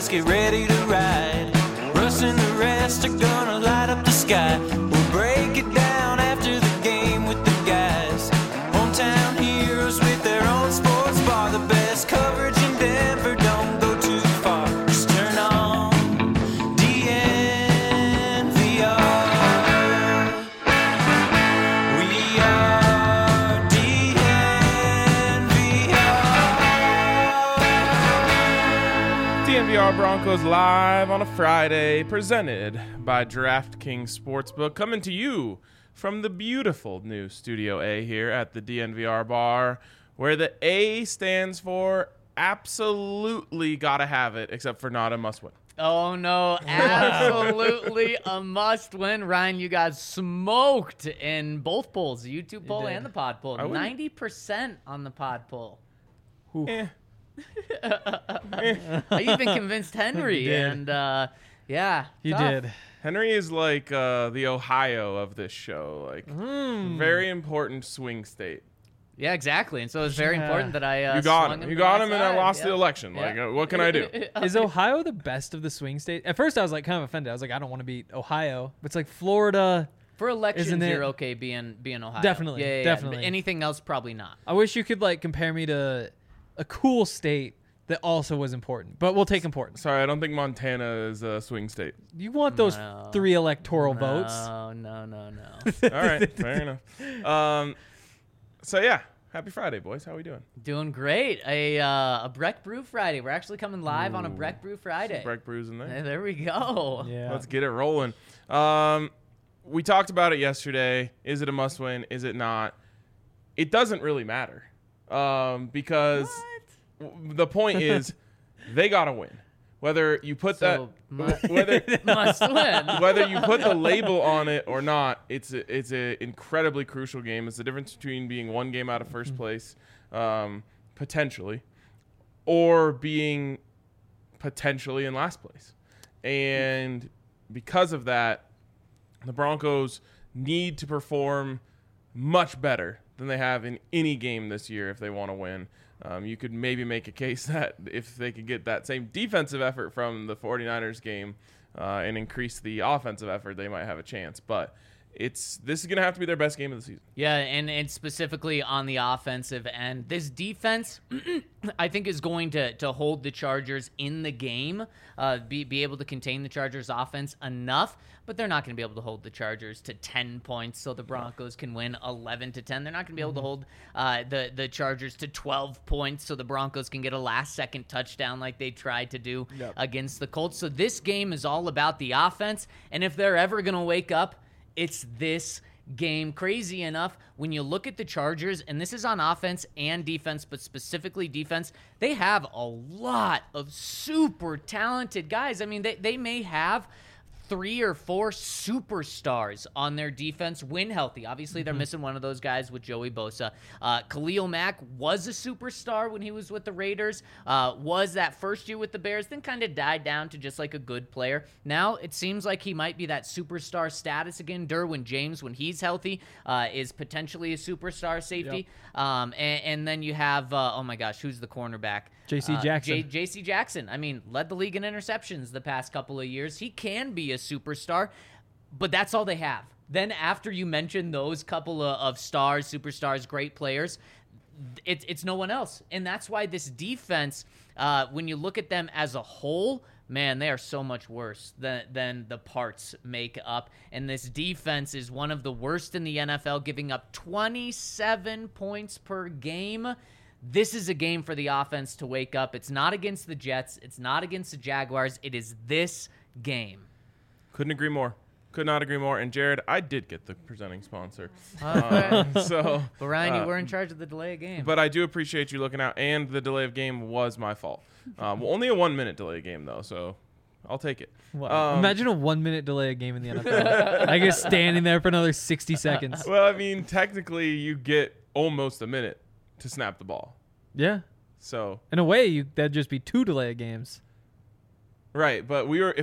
get ready to ride. Russ and the rest are gonna light up the sky. We'll break it down after the game with the guys. Hometown heroes with their own sports bar. The best coverage in Denver, don't go too far. Just turn on DNVR. We are DNVR. DNVR Broncos live on a Friday, presented by DraftKings Sportsbook, coming to you from the beautiful new Studio A here at the DNVR bar, where the A stands for absolutely gotta have it, except for not a must win. Oh, no, absolutely a must-win. Ryan, you got smoked in both polls, the YouTube poll and the pod poll. 90% on the pod poll. I even convinced Henry, and yeah. You tough. did. Henry is like the Ohio of this show, like very important swing state. Yeah, exactly. And so it's very important that I You got swung him. You to got my him, and I side. lost the Yep. election. Yep. Like, what can I do? Is Ohio the best of the swing states? At first, I was like kind of offended. I was like, I don't want to beat Ohio. But it's like Florida. For elections, Isn't it- you're okay being Ohio. Definitely, Yeah. definitely. But anything else, probably not. I wish you could like compare me to a cool state that also was important. But we'll take importance. Sorry, I don't think Montana is a swing state. You want those No. 3 electoral votes? No. All right, fair enough. So yeah, happy Friday, boys. How we doing? Doing great. A Breck Brew Friday. We're actually coming live on a Breck Brew Friday. Break brews in there. Hey, there we go. Yeah. Let's get it rolling. We talked about it yesterday. Is it a must win? Is it not? It doesn't really matter because the point is they gotta win. Whether you put So, whether must win. whether you put the label on it or not, it's a incredibly crucial game. It's the difference between being one game out of first place, potentially, or being potentially in last place. And because of that, the Broncos need to perform much better than they have in any game this year if they want to win. You could maybe make a case that if they could get that same defensive effort from the 49ers game and increase the offensive effort, they might have a chance. But this is going to have to be their best game of the season. Yeah, and specifically on the offensive end. This defense, I think, is going to hold the Chargers in the game, be able to contain the Chargers' offense enough, but they're not going to be able to hold the Chargers to 10 points so the Broncos can win 11-10. They're not going to be able to hold the Chargers to 12 points so the Broncos can get a last-second touchdown like they tried to do against the Colts. So this game is all about the offense, and if they're ever going to wake up, it's this game. Crazy enough, when you look at the Chargers, and this is on offense and defense, but specifically defense, they have a lot of super talented guys. I mean, they may have 3 or 4 superstars on their defense when healthy. Obviously, they're missing one of those guys with Joey Bosa. Khalil Mack was a superstar when he was with the Raiders, was that first year with the Bears, then kind of died down to just like a good player. Now it seems like he might be that superstar status again. Derwin James, when he's healthy, is potentially a superstar safety. And then you have, oh my gosh, who's the cornerback? J.C. Jackson. J.C. Jackson. I mean, led the league in interceptions the past couple of years. He can be a superstar, but that's all they have. Then after you mention those couple of stars, superstars, great players, it's no one else. And that's why this defense, when you look at them as a whole, man, they are so much worse than the parts make up. And this defense is one of the worst in the NFL, giving up 27 points per game. This is a game for the offense to wake up. It's not against the Jets. It's not against the Jaguars. It is this game. Couldn't agree more. Could not agree more. And Jared, I did get the presenting sponsor. Okay. So, But Ryan, you were in charge of the delay of game. but I do appreciate you looking out. And the delay of game was my fault. Well, only a 1-minute delay of game though, so I'll take it. Wow. Imagine a 1-minute delay a game in the NFL. I guess standing there for another 60 seconds. Well, I mean, technically, you get almost a minute to snap the ball. Yeah. So In a way, that'd just be 2 delay games. right, but we were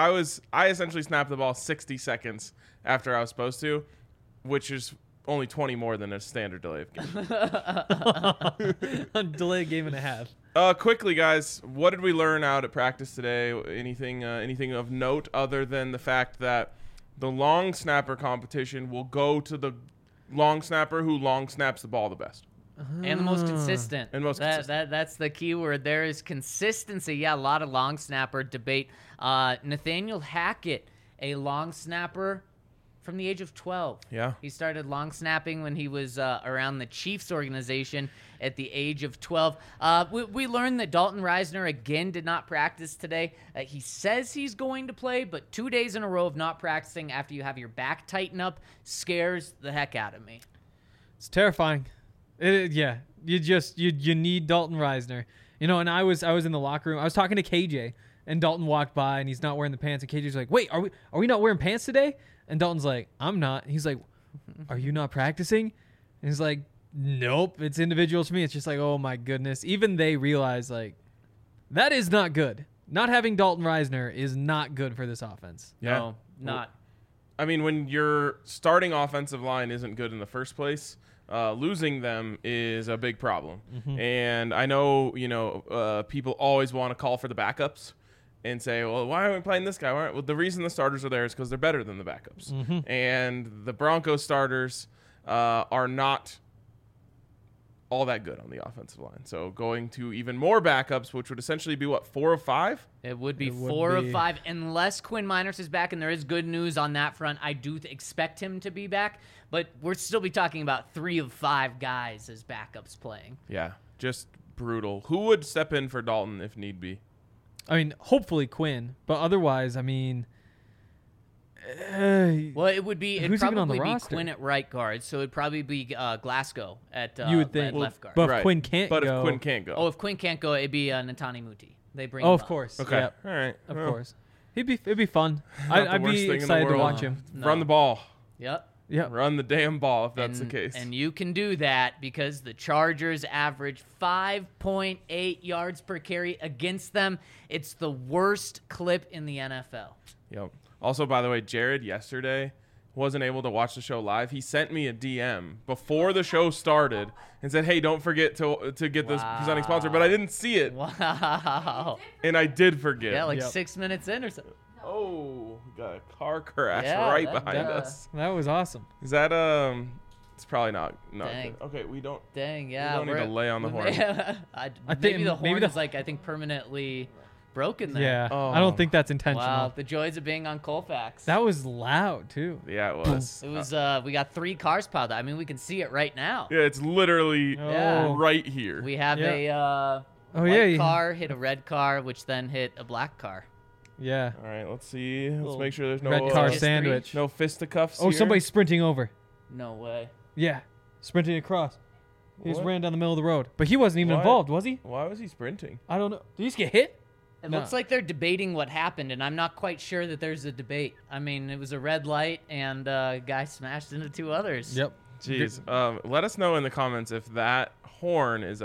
I essentially snapped the ball 60 seconds after I was supposed to, which is only 20 more than a standard delay of game. Delay a game and a half. Quickly, guys, what did we learn out at practice today? Anything of note other than the fact that the long snapper competition will go to the long snapper who long snaps the ball the best? And the most consistent. And most consistent. That's the key word. There is consistency. Yeah, a lot of long snapper debate. Nathaniel Hackett, a long snapper from the age of 12. Yeah. He started long snapping when he was around the Chiefs organization at the age of 12. We learned that Dalton Reisner, again, did not practice today. He says he's going to play, but 2 days in a row of not practicing after you have your back tighten up scares the heck out of me. It's terrifying. You need Dalton Reisner. And I was in the locker room. I was talking to KJ, and Dalton walked by, and he's not wearing the pants. And KJ's like, "Wait, are we not wearing pants today?" And Dalton's like, "I'm not." He's like, "Are you not practicing?" And he's like, "Nope, it's individuals for me." It's just like, oh my goodness. Even they realize like that is not good. Not having Dalton Reisner is not good for this offense. Yeah. No, not. I mean, when your starting offensive line isn't good in the first place, losing them is a big problem. And I know, people always want to call for the backups and say, well, why aren't we playing this guy? Well, the reason the starters are there is because they're better than the backups. And the Broncos starters are not all that good on the offensive line. So going to even more backups, which would essentially be, 4 of 5? It would be It would 4 of be. 5, unless Quinn Miners is back, and there is good news on that front. I do expect him to be back, but we'll still be talking about 3 of 5 guys as backups playing. Yeah, just brutal. Who would step in for Dalton if need be? I mean, hopefully Quinn, but otherwise, I mean, Well, it'd Who's even on the probably be roster? Quinn at right guard, so it'd probably be Glasgow at you would think. at left guard. But if Right. Quinn can't But go, if Quinn can't go. Oh, if Quinn can't go, it'd be Natani Muti. They bring oh, him of up. course. Okay. Yep, All right. of Well, course. It'd be fun. not the I'd worst be thing in the excited to world. watch him. No. Run the ball. Yep. Yeah. Run the damn ball if that's the case. And you can do that because the Chargers average 5.8 yards per carry against them. It's the worst clip in the NFL. Yep. Also, by the way, Jared yesterday wasn't able to watch the show live. He sent me a DM before the show started and said, "Hey, don't forget to get this presenting sponsor." But I didn't see it, Wow. and I did forget. Yeah, like Yep. 6 minutes in or so. Oh, got a car crash Yeah, right that- behind that- us. That was awesome. Is that It's probably not Dang. good. Okay, we don't. Dang, yeah. don't need to lay on the horn. I think maybe the maybe horn the- is like, I think, permanently broken there. Yeah. Oh. I don't think that's intentional. Wow, the joys of being on Colfax. That was loud too. Yeah, it was. It was, we got 3 cars piled up. I mean, we can see it right now. Yeah, it's literally Yeah. right here. We have Yeah. a Oh, white yeah. car hit a red car, which then hit a black car. Yeah. All right, let's see. Let's Little make sure there's no Red car history. sandwich. no fisticuffs. Oh, here. somebody's sprinting over. No way. Yeah. Sprinting across. He just What? ran down the middle of the road. But he wasn't even What? involved, was he? Why was he sprinting? I don't know. Did he just get hit? It No. looks like they're debating what happened, and I'm not quite sure that there's a debate. I mean, it was a red light, and a guy smashed into 2 others. Yep. Jeez. Let us know in the comments if that horn is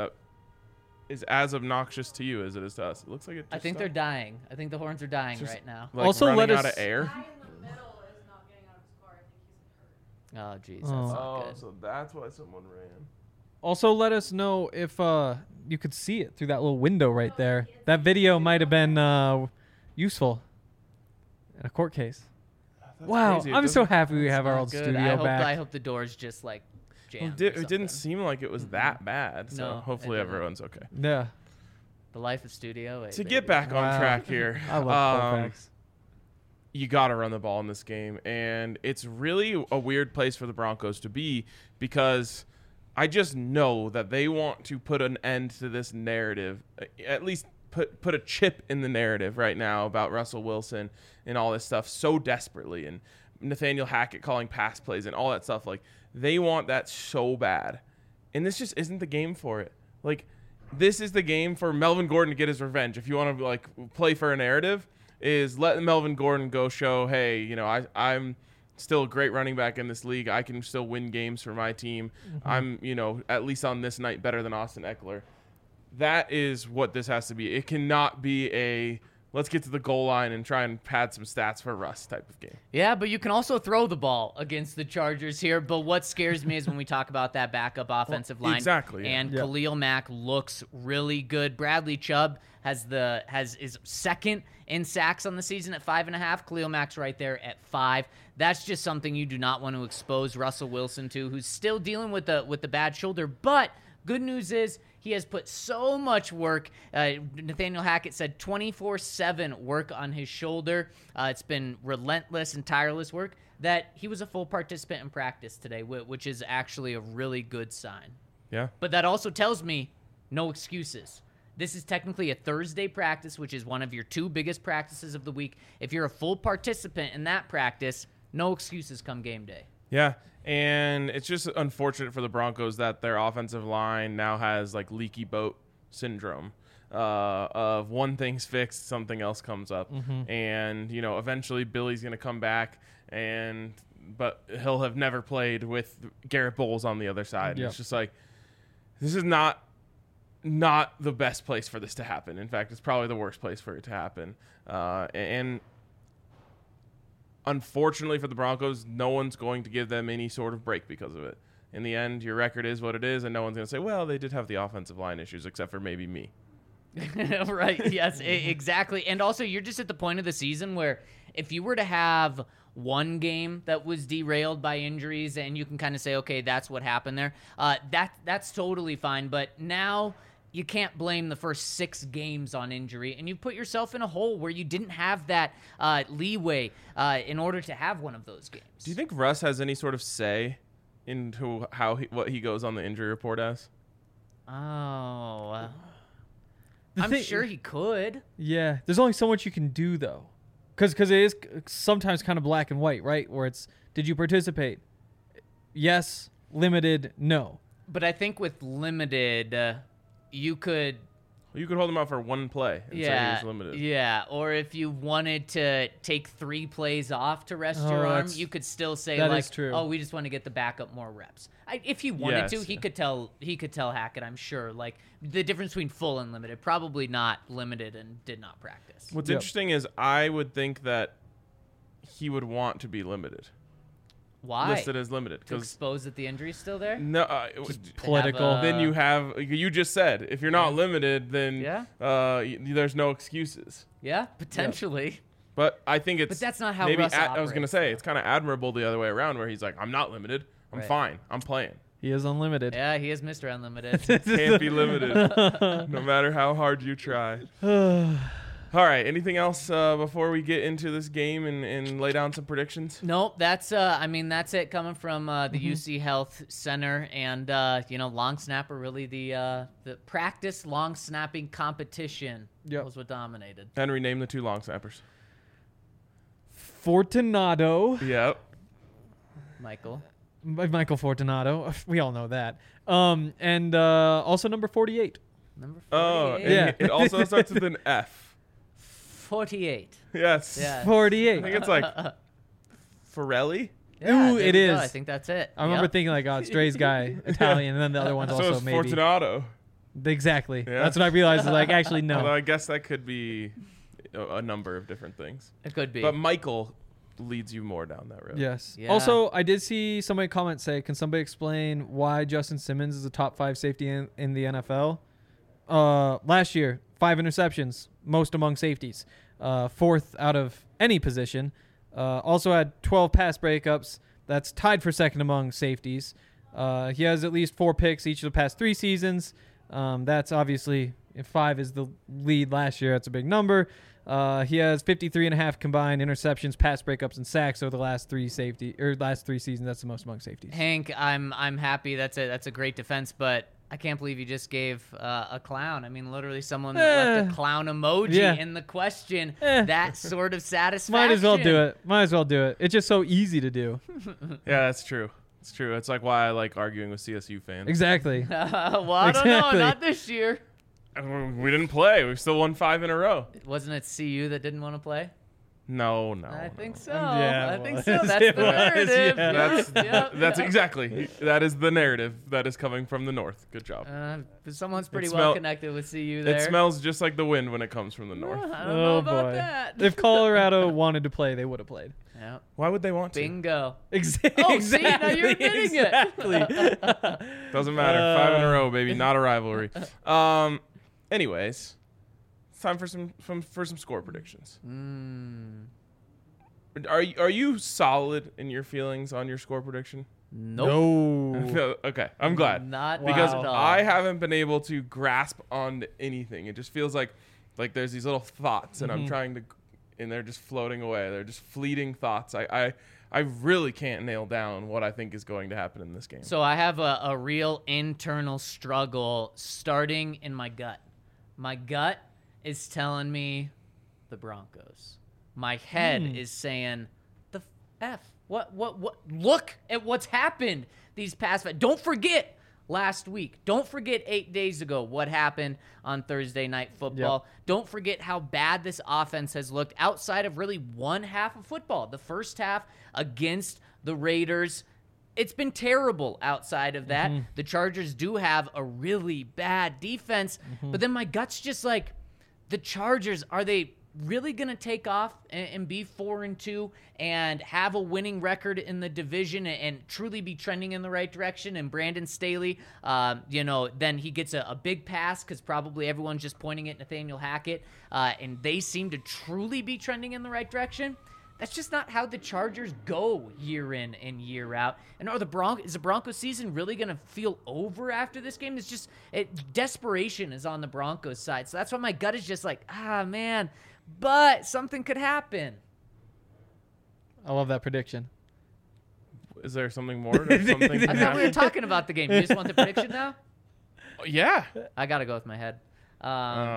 as obnoxious to you as it is to us. It looks like it. I think they're dying. I think the horns are dying Just- right now. like Also, running let out us- of air. guy in the middle is not getting out of his car. I think he's hurt. Oh, jeez, that's Oh. not good. so that's why someone ran. Also, let us know if you could see it through that little window right there. That video might have been useful in a court case. That's Wow, crazy. It I'm so doesn't- happy we have our Not old good. studio I hope, back. I hope the doors just like Well, jammed. it or didn't something. seem like it was that bad. So No, it hopefully didn't. everyone's okay. Yeah. The life of Studio A. To baby. get back on Wow. track here, I love Colfax. you got to run the ball in this game. And it's really a weird place for the Broncos to be because I just know that they want to put an end to this narrative, at least put a chip in the narrative right now about Russell Wilson and all this stuff so desperately. And Nathaniel Hackett calling pass plays and all that stuff. Like, they want that so bad. And this just isn't the game for it. Like, this is the game for Melvin Gordon to get his revenge. If you want to like play for a narrative, is let Melvin Gordon go show, hey, I'm still a great running back in this league. I can still win games for my team. I'm, at least on this night better than Austin Eckler. That is what this has to be. It cannot be a let's get to the goal line and try and pad some stats for Russ type of game. Yeah, but you can also throw the ball against the Chargers here. But what scares me is when we talk about that backup offensive line. Exactly, yeah. And Yep. Khalil Mack looks really good. Bradley Chubb is second in sacks on the season at 5.5. Khalil Mack's right there at 5. That's just something you do not want to expose Russell Wilson to, who's still dealing with the bad shoulder. But good news is he has put so much work. Nathaniel Hackett said 24/7 work on his shoulder. It's been relentless and tireless work that he was a full participant in practice today, which is actually a really good sign. Yeah. But that also tells me no excuses. This is technically a Thursday practice, which is one of your 2 biggest practices of the week. If you're a full participant in that practice, no excuses come game day. Yeah, and it's just unfortunate for the Broncos that their offensive line now has like leaky boat syndrome of one thing's fixed, something else comes up, and eventually Billy's gonna come back, but he'll have never played with Garrett Bowles on the other side. Yep. It's just like this is not the best place for this to happen. In fact, it's probably the worst place for it to happen, and unfortunately for the Broncos, no one's going to give them any sort of break because of it. In the end, your record is what it is, and no one's going to say, well, they did have the offensive line issues, except for maybe me. Right. Yes, exactly. And also, you're just at the point of the season where if you were to have one game that was derailed by injuries and you can kind of say, okay, that's what happened there, that's totally fine. But now you can't blame the first 6 games on injury, and you put yourself in a hole where you didn't have that leeway in order to have one of those games. Do you think Russ has any sort of say into what he goes on the injury report as? Oh, The I'm thing- sure he could. Yeah, there's only so much you can do though, because it is sometimes kind of black and white, right? Where it's, did you participate? Yes. Limited. No. But I think with limited, you could. You could hold him out for one play and say he was limited. Yeah, or if you wanted to take 3 plays off to rest your arm, that's- you could still say that like, is true. "Oh, we just want to get the backup more reps." If he wanted to, Yes. he could tell Hackett, I'm sure, like the difference between full and limited. Probably not limited and did not practice. What's Yep. interesting is I would think that he would want to be limited, Why? listed as limited. To expose that the injury's still there? No, Political. then you have, you just said, if you're not limited, then Yeah. There's no excuses. Yeah, potentially. But I think it's. But that's not how maybe Russ I was going to operates, say, though. it's kind of admirable the other way around where he's like, I'm not limited. I'm Right. fine. I'm playing. He is unlimited. Yeah, he is Mr. Unlimited. Can't be limited no matter how hard you try. All right. Anything else before we get into this game and lay down some predictions? Nope, that's that's it coming from the UC Health Center, and long snapper, really the practice long snapping competition Yep. was what dominated. Henry, name the 2 long snappers. Fortunato. Yep. Michael. Michael Fortunato. We all know that. And also number 48. Number 48. Oh, and Yeah. it also starts with an F. 48. Yes. Yeah. I 48. think it's like Forelli. Yeah, Ooh, there it we go. is. I think that's it. I remember Yep. thinking like, oh, it's Dre's guy, Italian, and then the other one's So also it's maybe. Fortunato. Exactly. Yeah. That's what I realized. Is like, actually, Although no. I guess that could be a number of different things. It could be. But Michael leads you more down that road. Yes. Yeah. Also, I did see somebody comment say, can somebody explain why Justin Simmons is a top 5 safety in the NFL? Last year, 5 interceptions, most among safeties. 4th out of any position. Also had 12 pass breakups. That's tied for 2nd among safeties. He has at least 4 picks each of the past 3 seasons. That's obviously, if 5 is the lead last year, that's a big number. He has 53.5 combined interceptions, pass breakups, and sacks over the last 3 seasons. That's the most among safeties. Hank, I'm happy. That's a great defense, but I can't believe you just gave a clown. I mean, literally someone that left a clown emoji Yeah. in the question. Eh. That sort of satisfaction. Might as well do it. It's just so easy to do. Yeah, that's true. It's true. It's like why I like arguing with CSU fans. Exactly. Well, I don't know. Exactly. Not this year. We didn't play. We still won 5 in a row. Wasn't it CU that didn't want to play? No. I think so. Yeah, I think it so. was. That's It the was, narrative. yeah. That's exactly. That is the narrative that is coming from the north. Good job. Someone's pretty It well smell- connected with CU there. It smells just like the wind when it comes from the I north. don't know Oh about boy! that. If Colorado wanted to play, they would have played. Yeah. Why would they want to? Bingo. Exactly. Oh, see, now you're admitting it. exactly. Doesn't matter. 5 in a row, baby. Not a rivalry. Anyways, it's time for some score predictions. Are you solid in your feelings on your score prediction? Nope. No. Okay, I'm glad. Not Because at all. I haven't been able to grasp on anything. It just feels like there's these little thoughts, and I'm trying to, and they're just floating away. They're just fleeting thoughts. I really can't nail down what I think is going to happen in this game. So I have a real internal struggle starting in my gut. My gut is telling me the Broncos. My head is saying the F. What? Look at what's happened these past. Don't forget last week. Don't forget 8 days ago what happened on Thursday Night Football. Yep. Don't forget how bad this offense has looked outside of really one half of football. The first half against the Raiders, it's been terrible outside of that. The Chargers do have a really bad defense, but then my gut's just like, the Chargers, are they really going to take off and be 4-2 and have a winning record in the division and truly be trending in the right direction? And Brandon Staley, then he gets a big pass because probably everyone's just pointing at Nathaniel Hackett, and they seem to truly be trending in the right direction. That's just not how the Chargers go year in and year out. And is the Broncos season really going to feel over after this game? It's just desperation is on the Broncos side. So that's why my gut is just like, man, but something could happen. I love that prediction. Is there something more? Or something I thought we were talking about the game. You just want the prediction now? Yeah. I got to go with my head. Oh.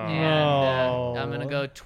And I'm going to go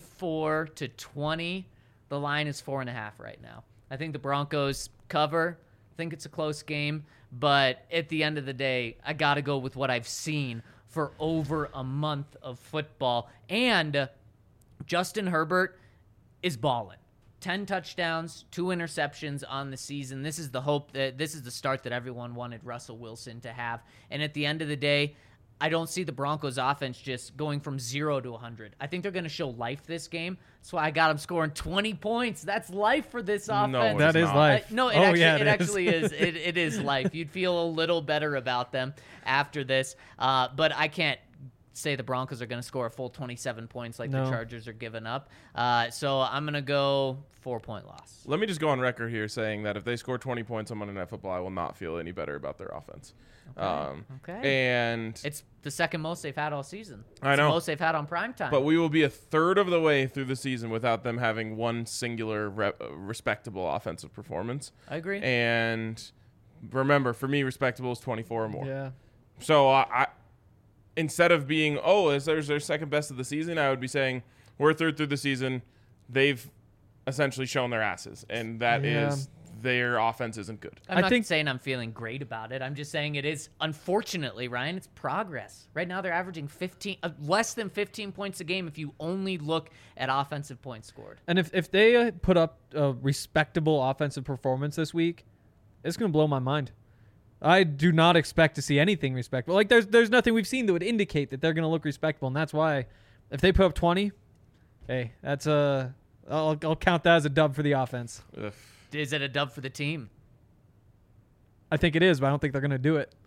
24-20. The line is 4.5 right now. I think the Broncos cover. I think it's a close game. But at the end of the day, I got to go with what I've seen for over a month of football. And Justin Herbert is balling. 10 touchdowns, 2 interceptions on the season. This is the hope that this is the start that everyone wanted Russell Wilson to have. And at the end of the day, I don't see the Broncos offense just going from 0 to 100. I think they're going to show life this game. That's why I got them scoring 20 points. That's life for this offense. No, That is not. life. No, it actually is. It is life. You'd feel a little better about them after this. But I can't say the Broncos are going to score a full 27 points like the Chargers are giving up. So I'm going to go 4-point loss. Let me just go on record here saying that if they score 20 points on Monday Night Football, I will not feel any better about their offense. Okay. And It's the second most they've had all season. I It's know. the most they've had on primetime. but we will be a third of the way through the season without them having one singular respectable offensive performance. I agree. And remember, for me, respectable is 24 or more. Yeah. So I instead of being, is their second best of the season, I would be saying we're third through the season. They've essentially shown their asses, and that is their offense isn't good. I'm I not think- saying I'm feeling great about it. I'm just saying it is, unfortunately, Ryan, it's progress. Right now they're averaging less than 15 points a game if you only look at offensive points scored. And if they put up a respectable offensive performance this week, it's going to blow my mind. I do not expect to see anything respectable. Like there's nothing we've seen that would indicate that they're going to look respectable, and that's why if they put up 20, hey, that's I'll count that as a dub for the offense. Ugh. Is it a dub for the team? I think it is, but I don't think they're going to do it.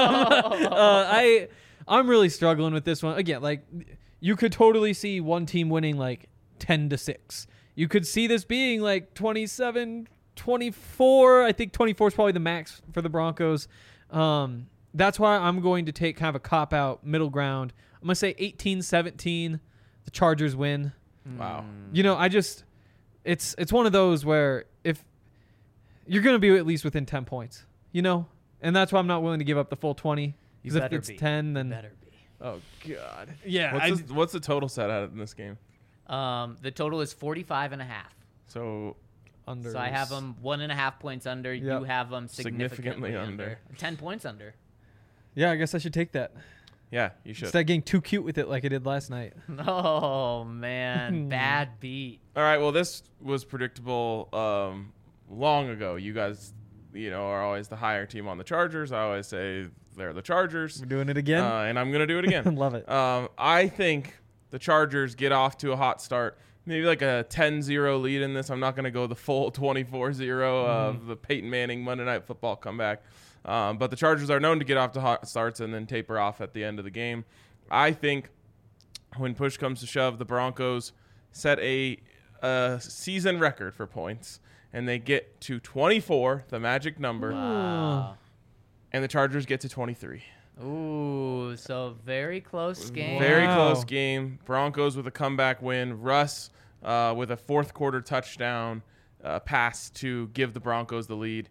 I'm really struggling with this one. Again, like you could totally see one team winning like 10-6. You could see this being like 27-24. I think 24 is probably the max for the Broncos. That's why I'm going to take kind of a cop-out middle ground. I'm going to say 18-17. The Chargers win. Wow. You know, it's one of those where if you're going to be at least within 10 points, you know, and that's why I'm not willing to give up the full 20. Because if it's 10, then better be. oh god, yeah. What's the total set out in this game? The total is 45.5. So under. So I have them 1.5 points under. Yep. You have them significantly Significantly under. under. 10 points under. Yeah, I guess I should take that. Yeah, you should. Instead of getting too cute with it like I did last night. Oh man, bad beat. All right, well, this was predictable long ago. You guys, are always the higher team on the Chargers. I always say they're the Chargers. We're doing it again. And I'm going to do it again. Love it. I think the Chargers get off to a hot start. Maybe like a 10-0 lead in this. I'm not going to go the full 24-0 of the Peyton Manning Monday Night Football comeback. But the Chargers are known to get off to hot starts and then taper off at the end of the game. I think when push comes to shove, the Broncos set a season record for points, and they get to 24, the magic number, Wow. and the Chargers get to 23. Ooh, so very close game. Very Wow. close game. Broncos with a comeback win. Russ with a fourth quarter touchdown pass to give the Broncos the lead.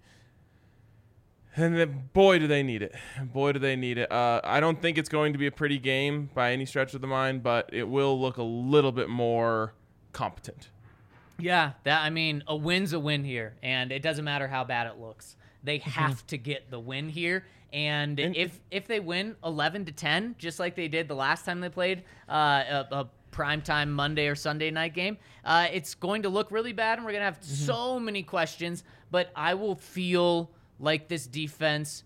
And then, boy, do they need it. Boy, do they need it. I don't think it's going to be a pretty game by any stretch of the mind, but it will look a little bit more competent. Yeah, a win's a win here, and it doesn't matter how bad it looks. They have to get the win here, and if they win 11-10, just like they did the last time they played a primetime Monday or Sunday night game, it's going to look really bad, and we're going to have so many questions, but I will feel like this defense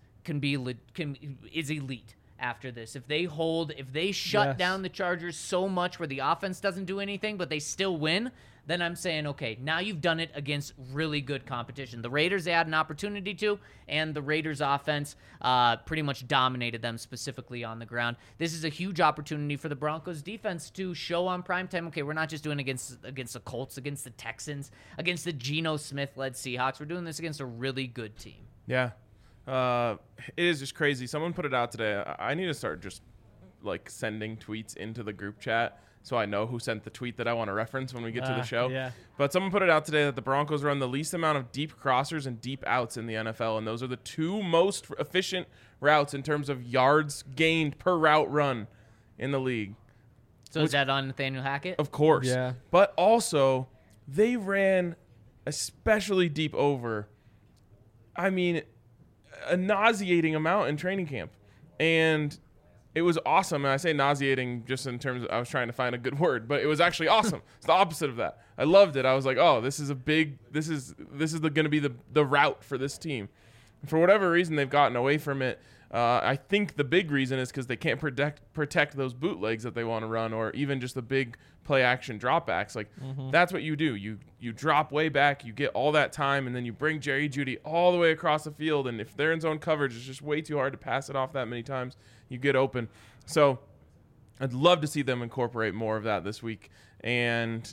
is elite after this. If they shut Yes. down the Chargers so much where the offense doesn't do anything, but they still win, then I'm saying, okay, now you've done it against really good competition. The Raiders, they had an opportunity to, and the Raiders offense pretty much dominated them specifically on the ground. This is a huge opportunity for the Broncos defense to show on primetime, okay, we're not just doing against the Colts, against the Texans, against the Geno Smith-led Seahawks. We're doing this against a really good team. Yeah. It is just crazy. Someone put it out today. I need to start just sending tweets into the group chat so I know who sent the tweet that I want to reference when we get to the show. Yeah. But someone put it out today that the Broncos run the least amount of deep crossers and deep outs in the NFL, and those are the two most efficient routes in terms of yards gained per route run in the league. So is that on Nathaniel Hackett? Of course. Yeah. But also, they ran especially deep over, a nauseating amount in training camp. And it was awesome. And I say nauseating just in terms of, I was trying to find a good word, but it was actually awesome. It's the opposite of that. I loved it. I was like, oh, this is going to be the route for this team. And for whatever reason, they've gotten away from it. I think the big reason is because they can't protect those bootlegs that they want to run, or even just the big play action dropbacks. That's what you do. You drop way back, you get all that time, and then you bring Jerry Jeudy all the way across the field. And if they're in zone coverage, it's just way too hard to pass it off that many times. You get open. So I'd love to see them incorporate more of that this week. And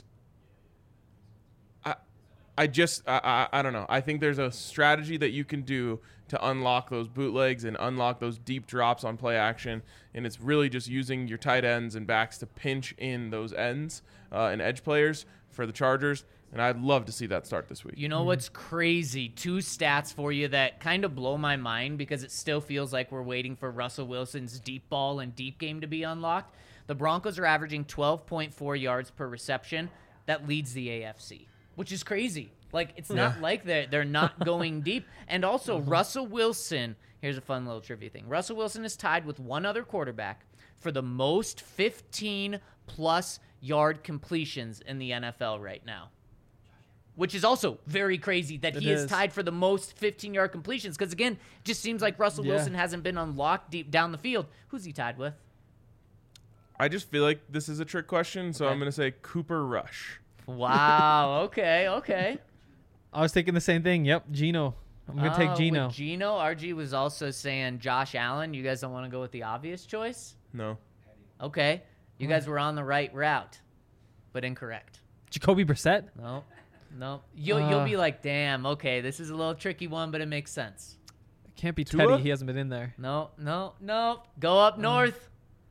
I don't know. I think there's a strategy that you can do to unlock those bootlegs and unlock those deep drops on play action. And it's really just using your tight ends and backs to pinch in those ends and edge players for the Chargers. And I'd love to see that start this week. You know what's crazy? 2 stats for you that kind of blow my mind because it still feels like we're waiting for Russell Wilson's deep ball and deep game to be unlocked. The Broncos are averaging 12.4 yards per reception. That leads the AFC, which is crazy. It's not like they're not going deep. And also, Russell Wilson, here's a fun little trivia thing. Russell Wilson is tied with one other quarterback for the most 15-plus yard completions in the NFL right now, which is also very crazy that he is tied for the most 15-yard completions because, again, it just seems like Russell Wilson hasn't been unlocked deep down the field. Who's he tied with? I just feel like this is a trick question, so I'm going to say Cooper Rush. Wow. Okay. I was thinking the same thing. Yep, Geno. I'm going to take Geno. With Geno, RG was also saying Josh Allen. You guys don't want to go with the obvious choice? No. Okay. You guys were on the right route, but incorrect. Jacoby Brissett? No. You'll be like, damn, okay, this is a little tricky one, but it makes sense. It can't be Tua? Teddy. He hasn't been in there. No. Go up north.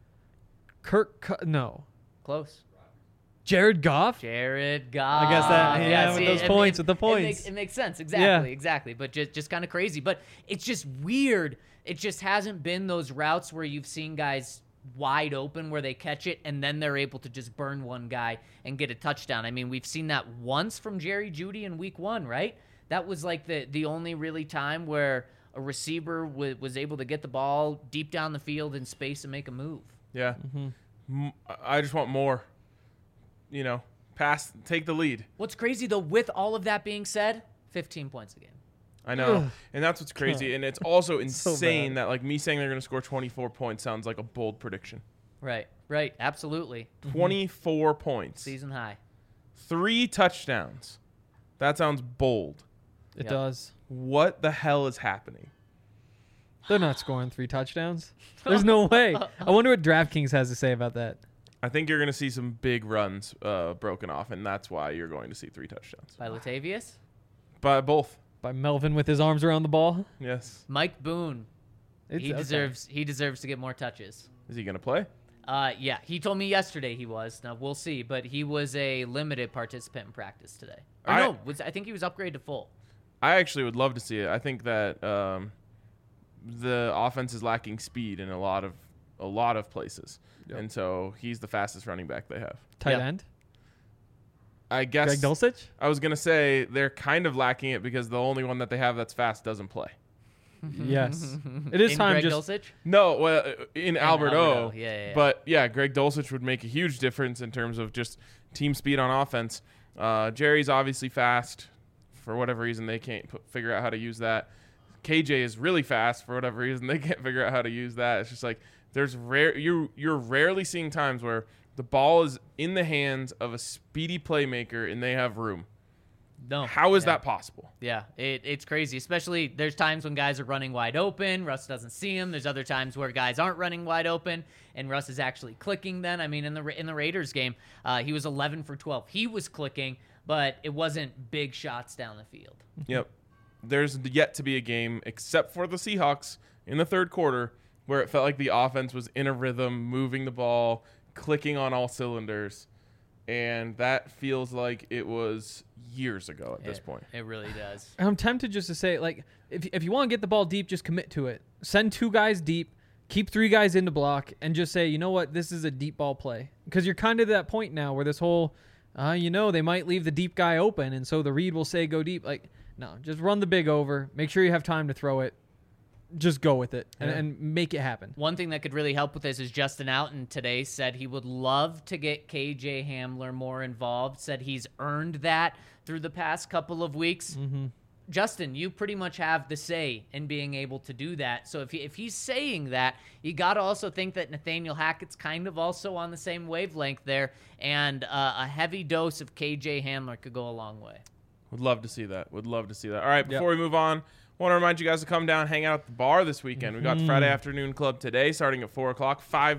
No. Close. Jared Goff? Jared Goff. I guess that, with those points, with the points. It makes sense. Exactly. But just kind of crazy. But it's just weird. It just hasn't been those routes where you've seen guys wide open where they catch it and then they're able to just burn one guy and get a touchdown. I mean, we've seen that once from Jerry Jeudy in week 1, right? That was like the only really time where a receiver was able to get the ball deep down the field in space and make a move. Yeah. I just want more. Take the lead. What's crazy, though, with all of that being said, 15 points a game. I know. And that's what's crazy. And it's also insane bad. that, like, me saying they're going to score 24 points sounds like a bold prediction. Right, absolutely. 24 points. Season high. 3 touchdowns. That sounds bold. It Yep. does. What the hell is happening? They're not scoring 3 touchdowns. There's no way. I wonder what DraftKings has to say about that. I think you're going to see some big runs broken off, and that's why you're going to see 3 touchdowns. By Latavius. By both. By Melvin with his arms around the ball. Yes. Mike Boone. He Okay. deserves to get more touches. Is he going to play? Yeah, he told me yesterday he was. Now we'll see, but he was a limited participant in practice today. Or I think he was upgraded to full. I actually would love to see it. I think that the offense is lacking speed in a lot of places. Yep. And so he's the fastest running back they have. Tight Yep. end. I guess Greg Dulcich. I was going to say they're kind of lacking it because the only one that they have that's fast doesn't play. Yes. It is In time. Greg Just Dulcich? No, well, in Albert O. Alberto. Yeah. But yeah, Greg Dulcich would make a huge difference in terms of just team speed on offense. Jerry's obviously fast. For whatever reason, they can't figure out how to use that. KJ is really fast. For whatever reason, they can't figure out how to use that. It's just like you're rarely seeing times where the ball is in the hands of a speedy playmaker and they have room. No. How is Yeah. that possible? Yeah, it's crazy. Especially there's times when guys are running wide open, Russ doesn't see him. There's other times where guys aren't running wide open, and Russ is actually clicking. Then I mean, in the Raiders game, he was 11 for 12. He was clicking, but it wasn't big shots down the field. Yep. There's yet to be a game, except for the Seahawks in the third quarter, where it felt like the offense was in a rhythm, moving the ball, clicking on all cylinders. And that feels like it was years ago at this point. It really does. I'm tempted just to say, like, if you want to get the ball deep, just commit to it. Send 2 guys deep, keep 3 guys in the block, and just say, you know what, this is a deep ball play. Because you're kind of to that point now where this whole, they might leave the deep guy open, and so the read will say go deep. Like, no, just run the big over. Make sure you have time to throw it. Just go with it and make it happen. One thing that could really help with this is Justin Outen today said he would love to get KJ Hamler more involved, said he's earned that through the past couple of weeks. Mm-hmm. Justin, you pretty much have the say in being able to do that. So if he's saying that, you got to also think that Nathaniel Hackett's kind of also on the same wavelength there, and a heavy dose of KJ Hamler could go a long way. Would love to see that. All right, before we move on, I want to remind you guys to come down and hang out at the bar this weekend. We got the Friday Afternoon Club today starting at 4 o'clock.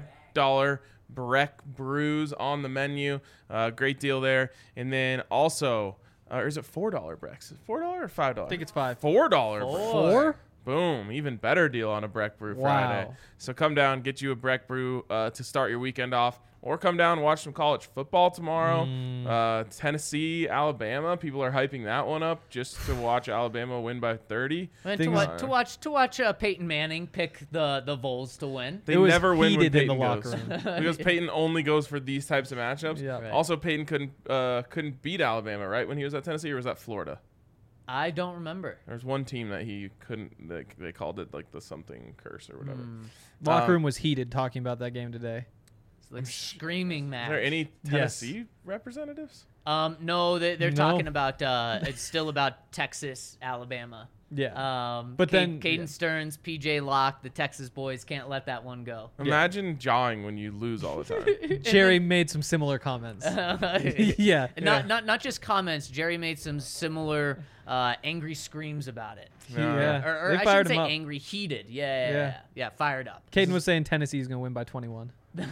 $5 Breck brews on the menu. Great deal there. And then also, or is it $4 Brecks? Is it $4 or $5? I think it's 5. $4 Breck. 4? Boom. Even better deal on a Breck Brew Friday. Wow. So come down, get you a Breck Brew to start your weekend off. Or come down and watch some college football tomorrow. Tennessee, Alabama. People are hyping that one up just to watch Alabama win by 30. And Things- to watch Peyton Manning pick the Vols to win. They It was never win when heated in Peyton the goes. locker room. Because Peyton only goes for these types of matchups. Yeah. Right. Also, Peyton couldn't beat Alabama, right, when he was at Tennessee, or was that Florida? I don't remember. There's one team that he couldn't. They called it like the something curse or whatever. Locker room was heated talking about that game today. It's like screaming match. Is there any Tennessee representatives? No, they're No. talking about it's still about Texas, Alabama. Yeah. But then- Caden yeah. Stearns, PJ Locke, the Texas boys can't let that one go. Imagine jawing when you lose all the time. Jerry made some similar comments. Yeah. Not just comments. Jerry made some similar angry screams about it. Yeah. Or They I fired should say him up. angry, heated. Yeah, fired up. Caden was saying Tennessee's going to win by 21.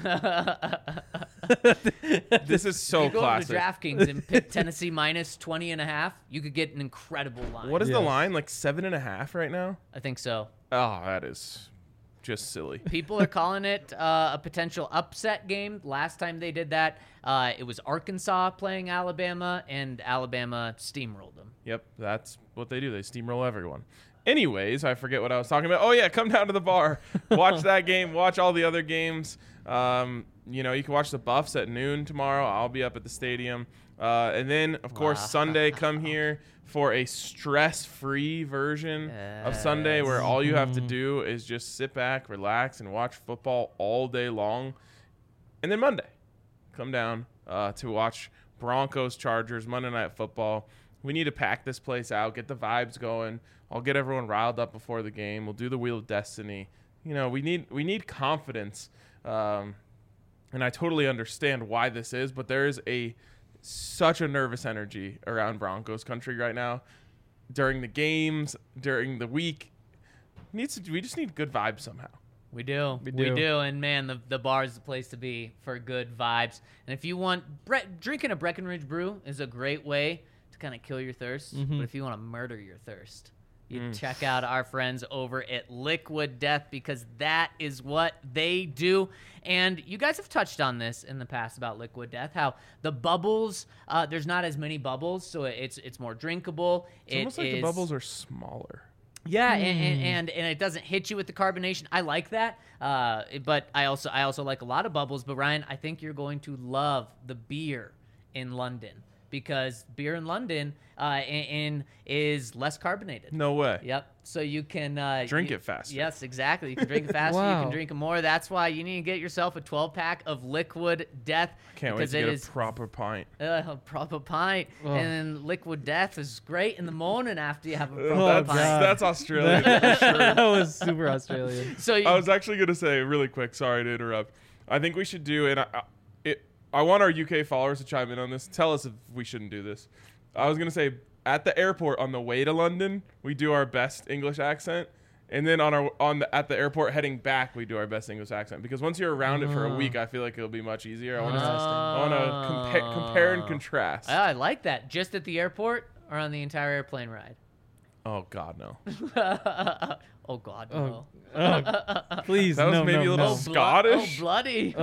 This is so You go over to classic. DraftKings and pick Tennessee minus 20.5. You could get an incredible line. What is the Yeah. line? Like 7.5 right now? I think so. Oh, that is just silly. People are calling it a potential upset game. Last time they did that, it was Arkansas playing Alabama, and Alabama steamrolled them. Yep, that's what they do. They steamroll everyone. Anyways, I forget what I was talking about. Oh yeah, come down to the bar, watch that game, watch all the other games. You know, you can watch the Buffs at noon tomorrow. I'll be up at the stadium. And then, of course, Wow. Sunday, come here for a stress-free version of Sunday where all you have to do is just sit back, relax, and watch football all day long. And then Monday, come down to watch Broncos Chargers Monday Night Football. We need to pack this place out, get the vibes going. I'll get everyone riled up before the game. We'll do the Wheel of Destiny. You know, we need confidence. And I totally understand why this is, but there is such a nervous energy around Broncos country right now. During the games, during the week, we just need good vibes somehow. We do. We We do. do. And man, the bar is the place to be for good vibes. And if you want, drinking a Breckenridge brew is a great way to kind of kill your thirst. But if you want to murder your thirst, you check out our friends over at Liquid Death, because that is what they do. And you guys have touched on this in the past about Liquid Death, how the bubbles, there's not as many bubbles, so it's more drinkable. It's almost like the bubbles are smaller. Yeah, and it doesn't hit you with the carbonation. I like that, but I also like a lot of bubbles. But Ryan, I think you're going to love the beer in London, because beer in London is less carbonated. No way. Yep. So you can Drink it faster. Yes, exactly. You can drink it faster. You Wow. can drink it more. That's why you need to get yourself a 12-pack of Liquid Death. Can't wait because to it get is a proper pint. a proper pint, Oh. and Liquid Death is great in the morning after you have a proper Oh, pint. God. That's Australian. that was super Australian. So you, I was actually going to say really quick, sorry to interrupt. I think we should do, and I want our UK followers to chime in on this. Tell us if we shouldn't do this. I was going to say, at the airport on the way to London, we do our best English accent. And then at the airport heading back, we do our best English accent. Because once you're around it for a week, I feel like it'll be much easier. I want to compare and contrast. I like that. Just at the airport or on the entire airplane ride? Oh, God, no. Oh, God, no. Please, That was no, maybe no, a little no. Scottish? Oh, bloody.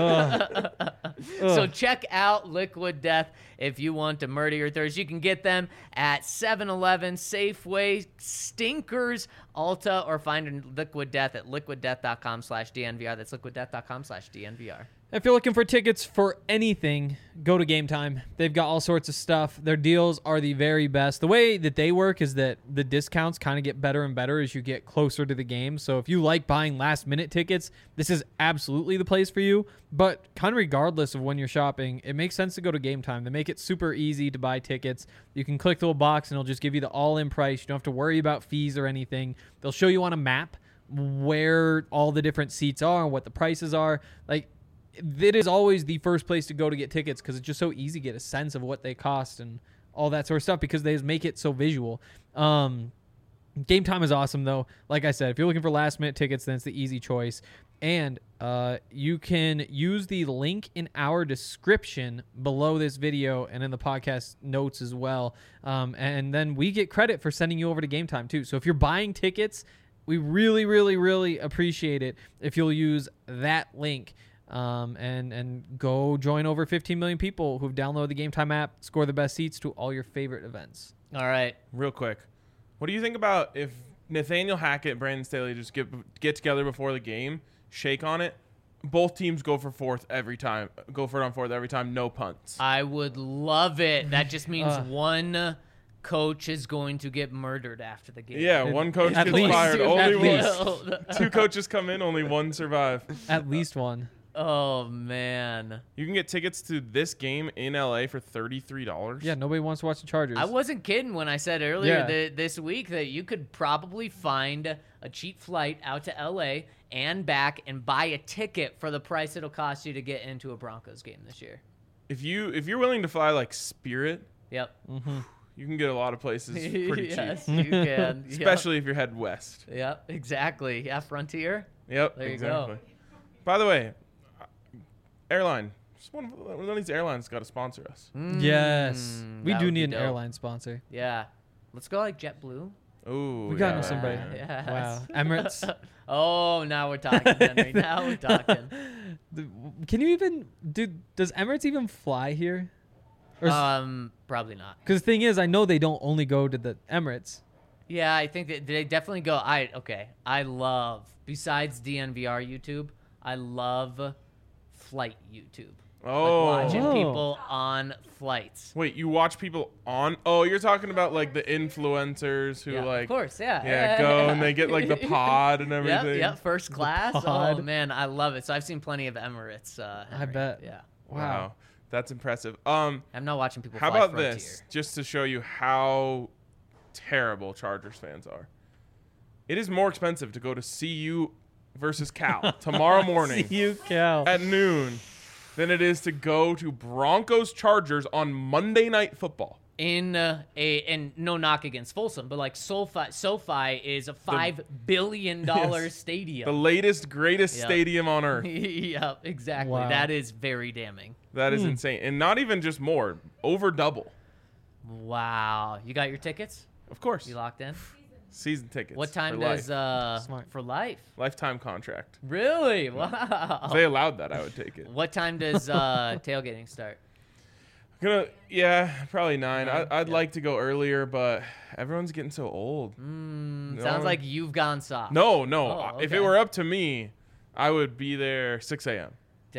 Ugh. So check out Liquid Death if you want to murder your thirst. You can get them at 7-Eleven, Safeway, Stinkers, Ulta, or find Liquid Death at liquiddeath.com/DNVR. That's liquiddeath.com/DNVR. If you're looking for tickets for anything, go to Game Time. They've got all sorts of stuff. Their deals are the very best. The way that they work is that the discounts kind of get better and better as you get closer to the game. So if you like buying last-minute tickets, this is absolutely the place for you. But kind of regardless of when you're shopping, it makes sense to go to Game Time. They make it super easy to buy tickets. You can click the little box, and it'll just give you the all-in price. You don't have to worry about fees or anything. They'll show you on a map where all the different seats are and what the prices are. Like, it is always the first place to go to get tickets, because it's just so easy to get a sense of what they cost and all that sort of stuff, because they just make it so visual. Game Time is awesome, though. Like I said, if you're looking for last-minute tickets, then it's the easy choice. And you can use the link in our description below this video and in the podcast notes as well. And then we get credit for sending you over to Game Time, too. So if you're buying tickets, we really, really, really appreciate it if you'll use that link. And go join over 15 million people who've downloaded the Game Time app, score the best seats to all your favorite events. All right. Real quick, what do you think about if Nathaniel Hackett and Brandon Staley just get together before the game, shake on it, both teams go for fourth every time, go for it on fourth every time, no punts? I would love it. That just means one coach is going to get murdered after the game. Yeah, one coach At gets least. fired. At Only least. one. Two coaches come in, only one survive. At least one. Oh, man. You can get tickets to this game in LA for $33. Yeah, nobody wants to watch the Chargers. I wasn't kidding when I said earlier Yeah. this week that you could probably find a cheap flight out to LA and back and buy a ticket for the price it'll cost you to get into a Broncos game this year. If you're willing to fly like Spirit, Yep. you can get a lot of places pretty Yes, cheap. you can. Especially if you're headed west. Yep, exactly. Yeah, Frontier. Yep, There you exactly. go. By the way, airline. Just one of these airlines got to sponsor us. Yes. We that do would need be an dope. airline sponsor. Yeah. Let's go like JetBlue. Ooh, We gotta know yeah. somebody. Yes. Wow. Emirates. Oh, now we're talking, Henry. Now we're talking. Can you even does Emirates even fly here? Probably not. Because the thing is, I know they don't only go to the Emirates. Yeah, I think that they definitely go. I love, besides DNVR YouTube, I love flight YouTube. Oh. Like watching Oh. people on flights. Wait, you watch people on? Oh, you're talking about like the influencers who Yeah, like, of course, yeah. yeah, go and they get like the pod and everything. Yep, first class. Oh pod. man, I love it. So I've seen plenty of Emirates. I bet. Yeah, Wow, that's impressive. I'm not watching people. How fly about Frontier. this? Just to show you how terrible Chargers fans are. It is more expensive to go to CU versus Cal tomorrow morning You Cal. at noon than it is to go to Broncos Chargers on Monday Night Football. In and no knock against Folsom, but like SoFi is a $5 billion Yes. stadium. The latest, greatest Yep. stadium on earth. Yep, exactly. Wow. That is very damning. That is insane. And not even just more, over double. Wow. You got your tickets? Of course. You locked in? Season tickets. What time for does life. Smart. for life? Lifetime contract. Really? Wow. If they allowed that, I would take it. What time does tailgating start? Probably 9. I'd Yeah. like to go earlier, but everyone's getting so old. Sounds like you've gone soft. No. Oh, If okay. it were up to me, I would be there 6 a.m.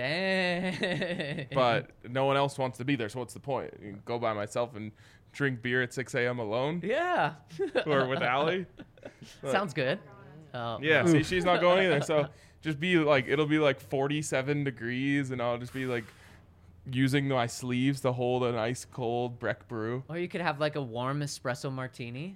Dang. But no one else wants to be there, so what's the point? You can go by myself and drink beer at 6 a.m. alone, yeah. or with Allie. Sounds good. Oh. Yeah, see, she's not going either. So just be like, it'll be like 47 degrees, and I'll just be like using my sleeves to hold an ice cold Breck brew. Or you could have like a warm espresso martini.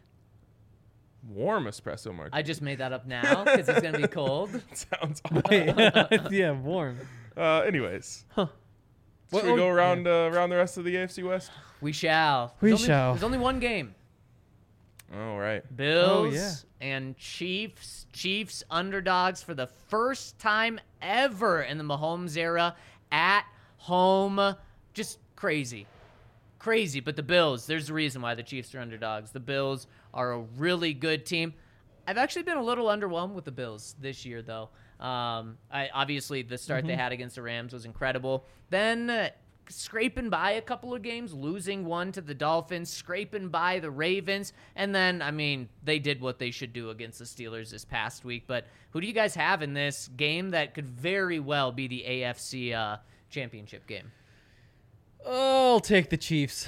Warm espresso martini. I just made that up now because it's gonna be cold. Sounds Yeah, warm. anyways. Huh. Should we go around around the rest of the AFC West? We shall. We There's shall. There's only one game. All right. Bills yeah. and Chiefs. Chiefs underdogs for the first time ever in the Mahomes era at home. Just crazy. Crazy. But the Bills, there's a reason why the Chiefs are underdogs. The Bills are a really good team. I've actually been a little underwhelmed with the Bills this year, though. Obviously, the start they had against the Rams was incredible. Then scraping by a couple of games, losing one to the Dolphins, scraping by the Ravens, and then, I mean, they did what they should do against the Steelers this past week. But who do you guys have in this game that could very well be the AFC championship game? I'll take the Chiefs.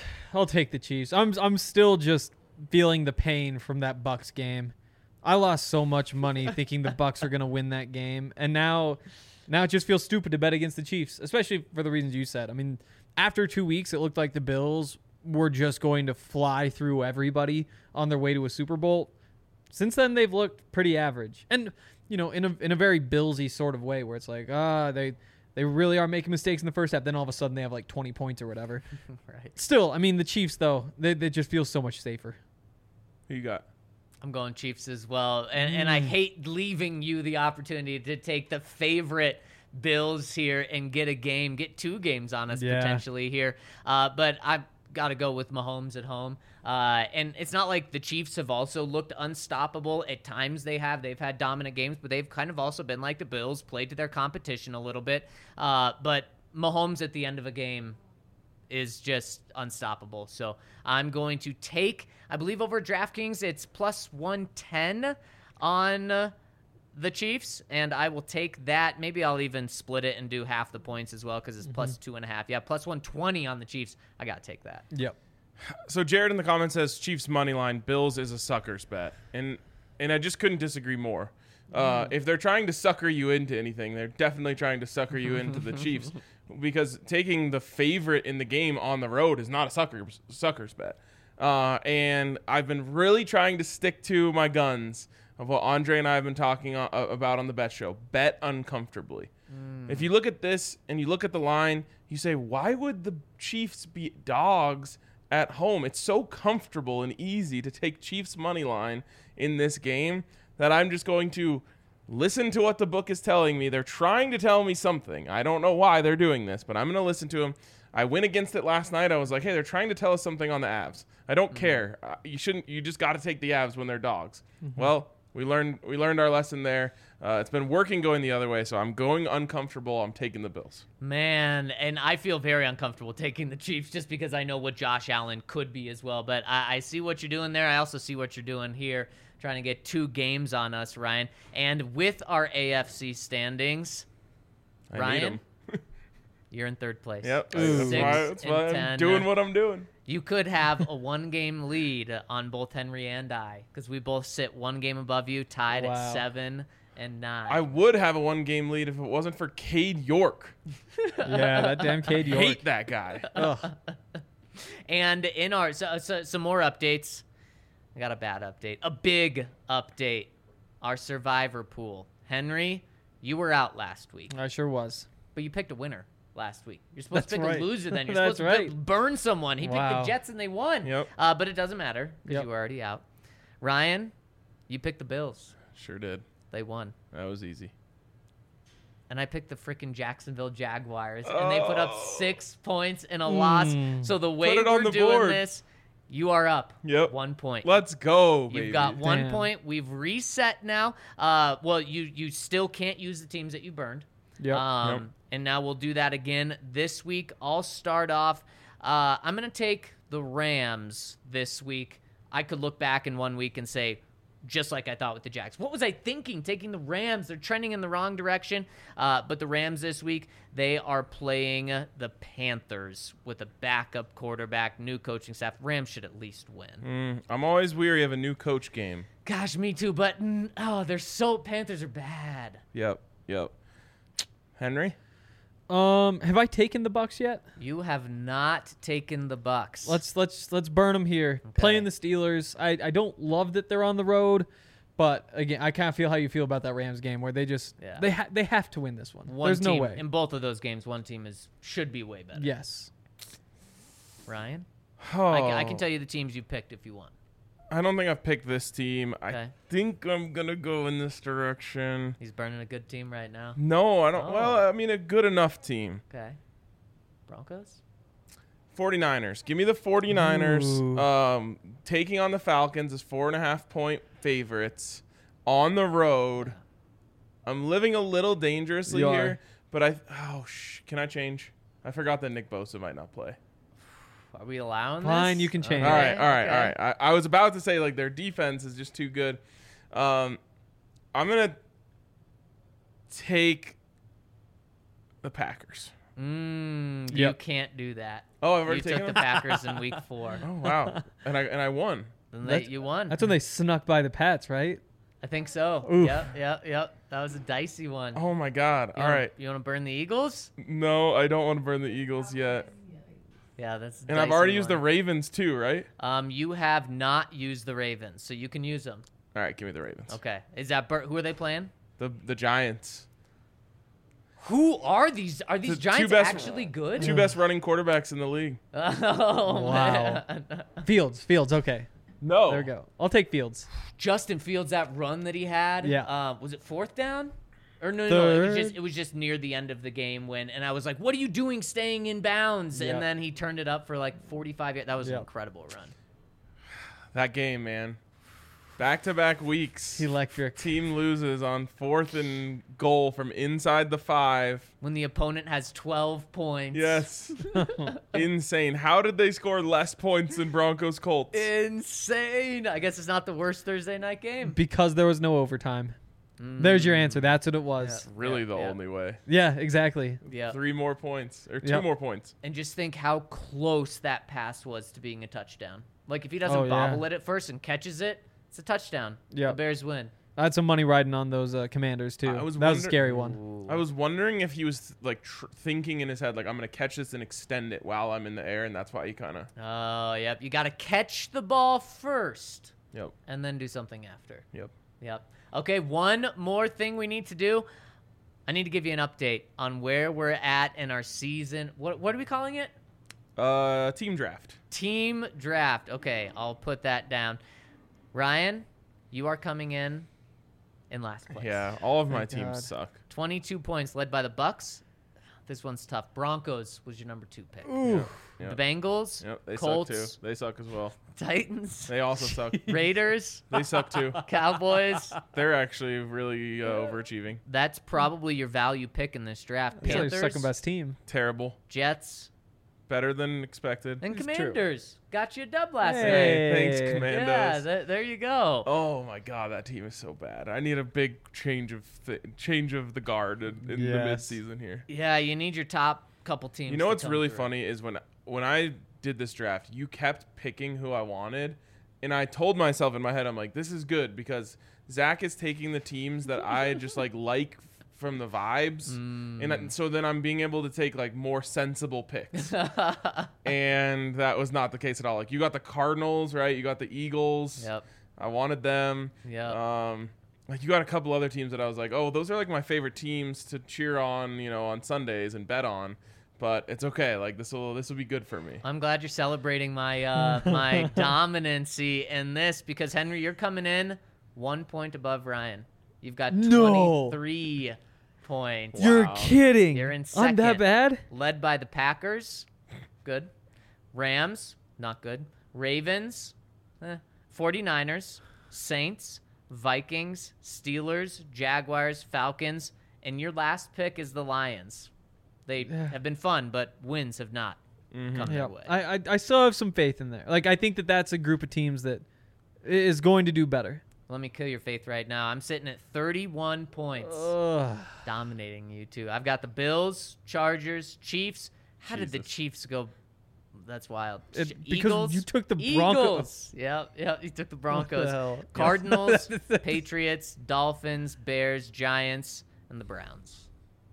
I'm still just feeling the pain from that Bucks game. I lost so much money thinking the Bucks are going to win that game, and now it just feels stupid to bet against the Chiefs, especially for the reasons you said. I mean, after 2 weeks, it looked like the Bills were just going to fly through everybody on their way to a Super Bowl. Since then, they've looked pretty average, and in a very Billsy sort of way, where it's like, they really are making mistakes in the first half. Then all of a sudden, they have like 20 points or whatever. Right. Still, I mean, the Chiefs though, they just feel so much safer. Who you got? I'm going Chiefs as well. And I hate leaving you the opportunity to take the favorite Bills here and get 2 games on us Yeah. potentially here. But I've got to go with Mahomes at home. And it's not like the Chiefs have also looked unstoppable. At times they've had dominant games, but they've kind of also been like the Bills, played to their competition a little bit. But Mahomes at the end of a game is just unstoppable. So I'm going to take, I believe over DraftKings, it's plus 110 on the Chiefs, and I will take that. Maybe I'll even split it and do half the points as well because it's plus 2.5. Yeah, plus 120 on the Chiefs. I got to take that. Yep. So Jared in the comments says Chiefs money line, Bills is a sucker's bet, and I just couldn't disagree more. If they're trying to sucker you into anything, they're definitely trying to sucker you into the Chiefs, because taking the favorite in the game on the road is not a sucker's bet. And I've been really trying to stick to my guns of what Andre and I have been talking about on the Bet Show. Bet uncomfortably. If you look at this and you look at the line, you say, why would the Chiefs be dogs at home? It's so comfortable and easy to take Chiefs money line in this game that I'm just going to listen to what the book is telling me. They're trying to tell me something. I don't know why they're doing this, but I'm going to listen to them. I went against it last night. I was like, hey, they're trying to tell us something on the Avs. I don't care. You just got to take the Avs when they're dogs. Well, we learned our lesson there. It's been working going the other way, so I'm going uncomfortable. I'm taking the Bills. Man, and I feel very uncomfortable taking the Chiefs just because I know what Josh Allen could be as well. But I see what you're doing there. I also see what you're doing here, trying to get 2 games on us, Ryan. And with our AFC standings, I Ryan, need 'em. you're in 3rd place. Yep. Ooh. That's why I'm 10. doing what I'm doing. You could have a 1-game lead on both Henry and I, because we both sit 1 game above you, tied Wow. at 7 and 9. I would have a 1-game lead if it wasn't for Cade York. Yeah, that damn Cade York. Hate that guy. Ugh. And in our some more updates. I got a bad update. A big update. Our survivor pool. Henry, you were out last week, I sure was. but you picked a winner last week. You're supposed to That's pick right. a loser then. You're That's supposed to right. burn someone. He picked Wow. the Jets and they won. Yep. But it doesn't matter because Yep. you were already out. Ryan, you picked the Bills. Sure did. They won. That was easy. And I picked the freaking Jacksonville Jaguars, and they put up 6 points in a loss. So the way Put it on we're the doing board. this, you are up. Yep. 1 point. Let's go, baby. You've got 1 Damn. point. We've reset now. Well, you still can't use the teams that you burned. Yep. Yep. And now we'll do that again this week. I'll start off. I'm going to take the Rams this week. I could look back in 1 week and say, just like I thought with the Jags. What was I thinking taking the Rams? They're trending in the wrong direction. But the Rams this week, they are playing the Panthers with a backup quarterback, new coaching staff. Rams should at least win. I'm always weary of a new coach game. Gosh, me too. But, Panthers are bad. Yep. Henry? Have I taken the Bucks yet? You have not taken the Bucks. Let's burn them here. Playing the Steelers. I don't love that they're on the road, but again, I kind of feel how you feel about that Rams game where they just they have to win this one. There's no team, way. in both of those games. One team should be way better. Yes. Ryan, Oh, I can tell you the teams you picked if you want. I don't think I've picked this team. Okay. I think I'm going to go in this direction. He's burning a good team right now. No, I don't. Oh. Well, I mean, a good enough team. Okay. Broncos. 49ers. Give me the 49ers. Ooh. Taking on the Falcons as 4.5-point favorites on the road. I'm living a little dangerously You here, are. but can I change? I forgot that Nick Bosa might not play. Are we allowing Fine, this? you can change. All right. Okay. I was about to say, like, their defense is just too good. I'm going to take the Packers. You Yep. can't do that. Oh, I've You already took taken the them? Packers in week 4. Oh, wow. and I won. Then you won. That's when they snuck by the Pats, right? I think so. Oof. Yep. That was a dicey one. Oh, my God. All right. You want to burn the Eagles? No, I don't want to burn the Eagles yet. Yeah, that's. A And I've dicey already used the one. Ravens too, right? You have not used the Ravens, so you can use them. All right, give me the Ravens. Okay. Is that who are they playing? The Giants. Who are these? Are these The two Giants best- actually good? Two best running quarterbacks in the league. Oh, Wow. man. Fields. Okay. No. There we go. I'll take Fields. Justin Fields, that run that he had. Yeah. Was it 4th down? Or no, Third. it was just near the end of the game and I was like, "What are you doing, staying in bounds?" Yeah. And then he turned it up for like 45 yards. That was an Yeah. incredible run. That game, man. Back-to-back weeks. Electric. Team loses on 4th and goal from inside the 5. When the opponent has 12 points. Yes. Insane. How did they score less points than Broncos Colts? Insane. I guess it's not the worst Thursday night game. Because there was no overtime. There's your answer. That's what it was. Really the yeah. only way. Yeah, exactly. Yeah. 3 more points. Or 2 Yep. more points. And just think how close that pass was to being a touchdown. Like if he doesn't Oh, yeah. bobble it at first and catches it, it's a touchdown. Yep. The Bears win. I had some money riding on those Commanders too. I was That was a wonder- scary one. Ooh. I was wondering if he was like thinking in his head, like, I'm going to catch this and extend it while I'm in the air, and that's why he kind of. Oh, yep. You got to catch the ball first Yep. and then do something after. Yep. Yep. Okay, one more thing we need to do. I need to give you an update on where we're at in our season. What are we calling it? Team draft. Team draft. Okay, I'll put that down. Ryan, you are coming in last place. Yeah, all of my Thank teams God. suck. 22 points led by the Bucks. This one's tough. Broncos was your number 2 pick. Ooh. Yeah. The Bengals, Yep, they Colts, suck too. They suck as well. Titans, They also suck. Raiders, They suck too. Cowboys. They're actually really overachieving. That's probably your value pick in this draft. It's like Panthers, your second best team. Terrible. Jets, Better than expected. and It's true. Commanders. Got you a dub last night. Hey. Thanks, Yeah, Commandos. there you go. Oh my God, that team is so bad. I need a big change of the guard in the Yes. midseason here. Yeah, you need your top couple teams. You know to what's come really through. funny is when I did this draft, you kept picking who I wanted, and I told myself in my head, I'm like, this is good because Zach is taking the teams that I just like from the vibes, and so then I'm being able to take like more sensible picks, and that was not the case at all. Like you got the Cardinals, right? You got the Eagles. Yep. I wanted them. Yep. Like you got a couple other teams that I was like, oh, those are like my favorite teams to cheer on, on Sundays and bet on. But it's okay. Like this will be good for me. I'm glad you're celebrating my my dominancy in this because Henry, you're coming in 1 point above Ryan. You've got No. 23 points. You're Wow. kidding. You're in I'm that second. bad? Led by the Packers, good. Rams, not good. Ravens, 49ers, Saints, Vikings, Steelers, Jaguars, Falcons, and your last pick is the Lions. They have been fun, but wins have not come their Yeah. way. I still have some faith in there. Like, I think that's a group of teams that is going to do better. Let me kill your faith right now. I'm sitting at 31 points, Ugh. dominating you two. I've got the Bills, Chargers, Chiefs. How did the Jesus. Chiefs go? That's wild. Because Eagles, you took the Broncos. Eagles. Yep, you took the What Broncos. the hell? Cardinals, Patriots, Dolphins, Bears, Giants, and the Browns.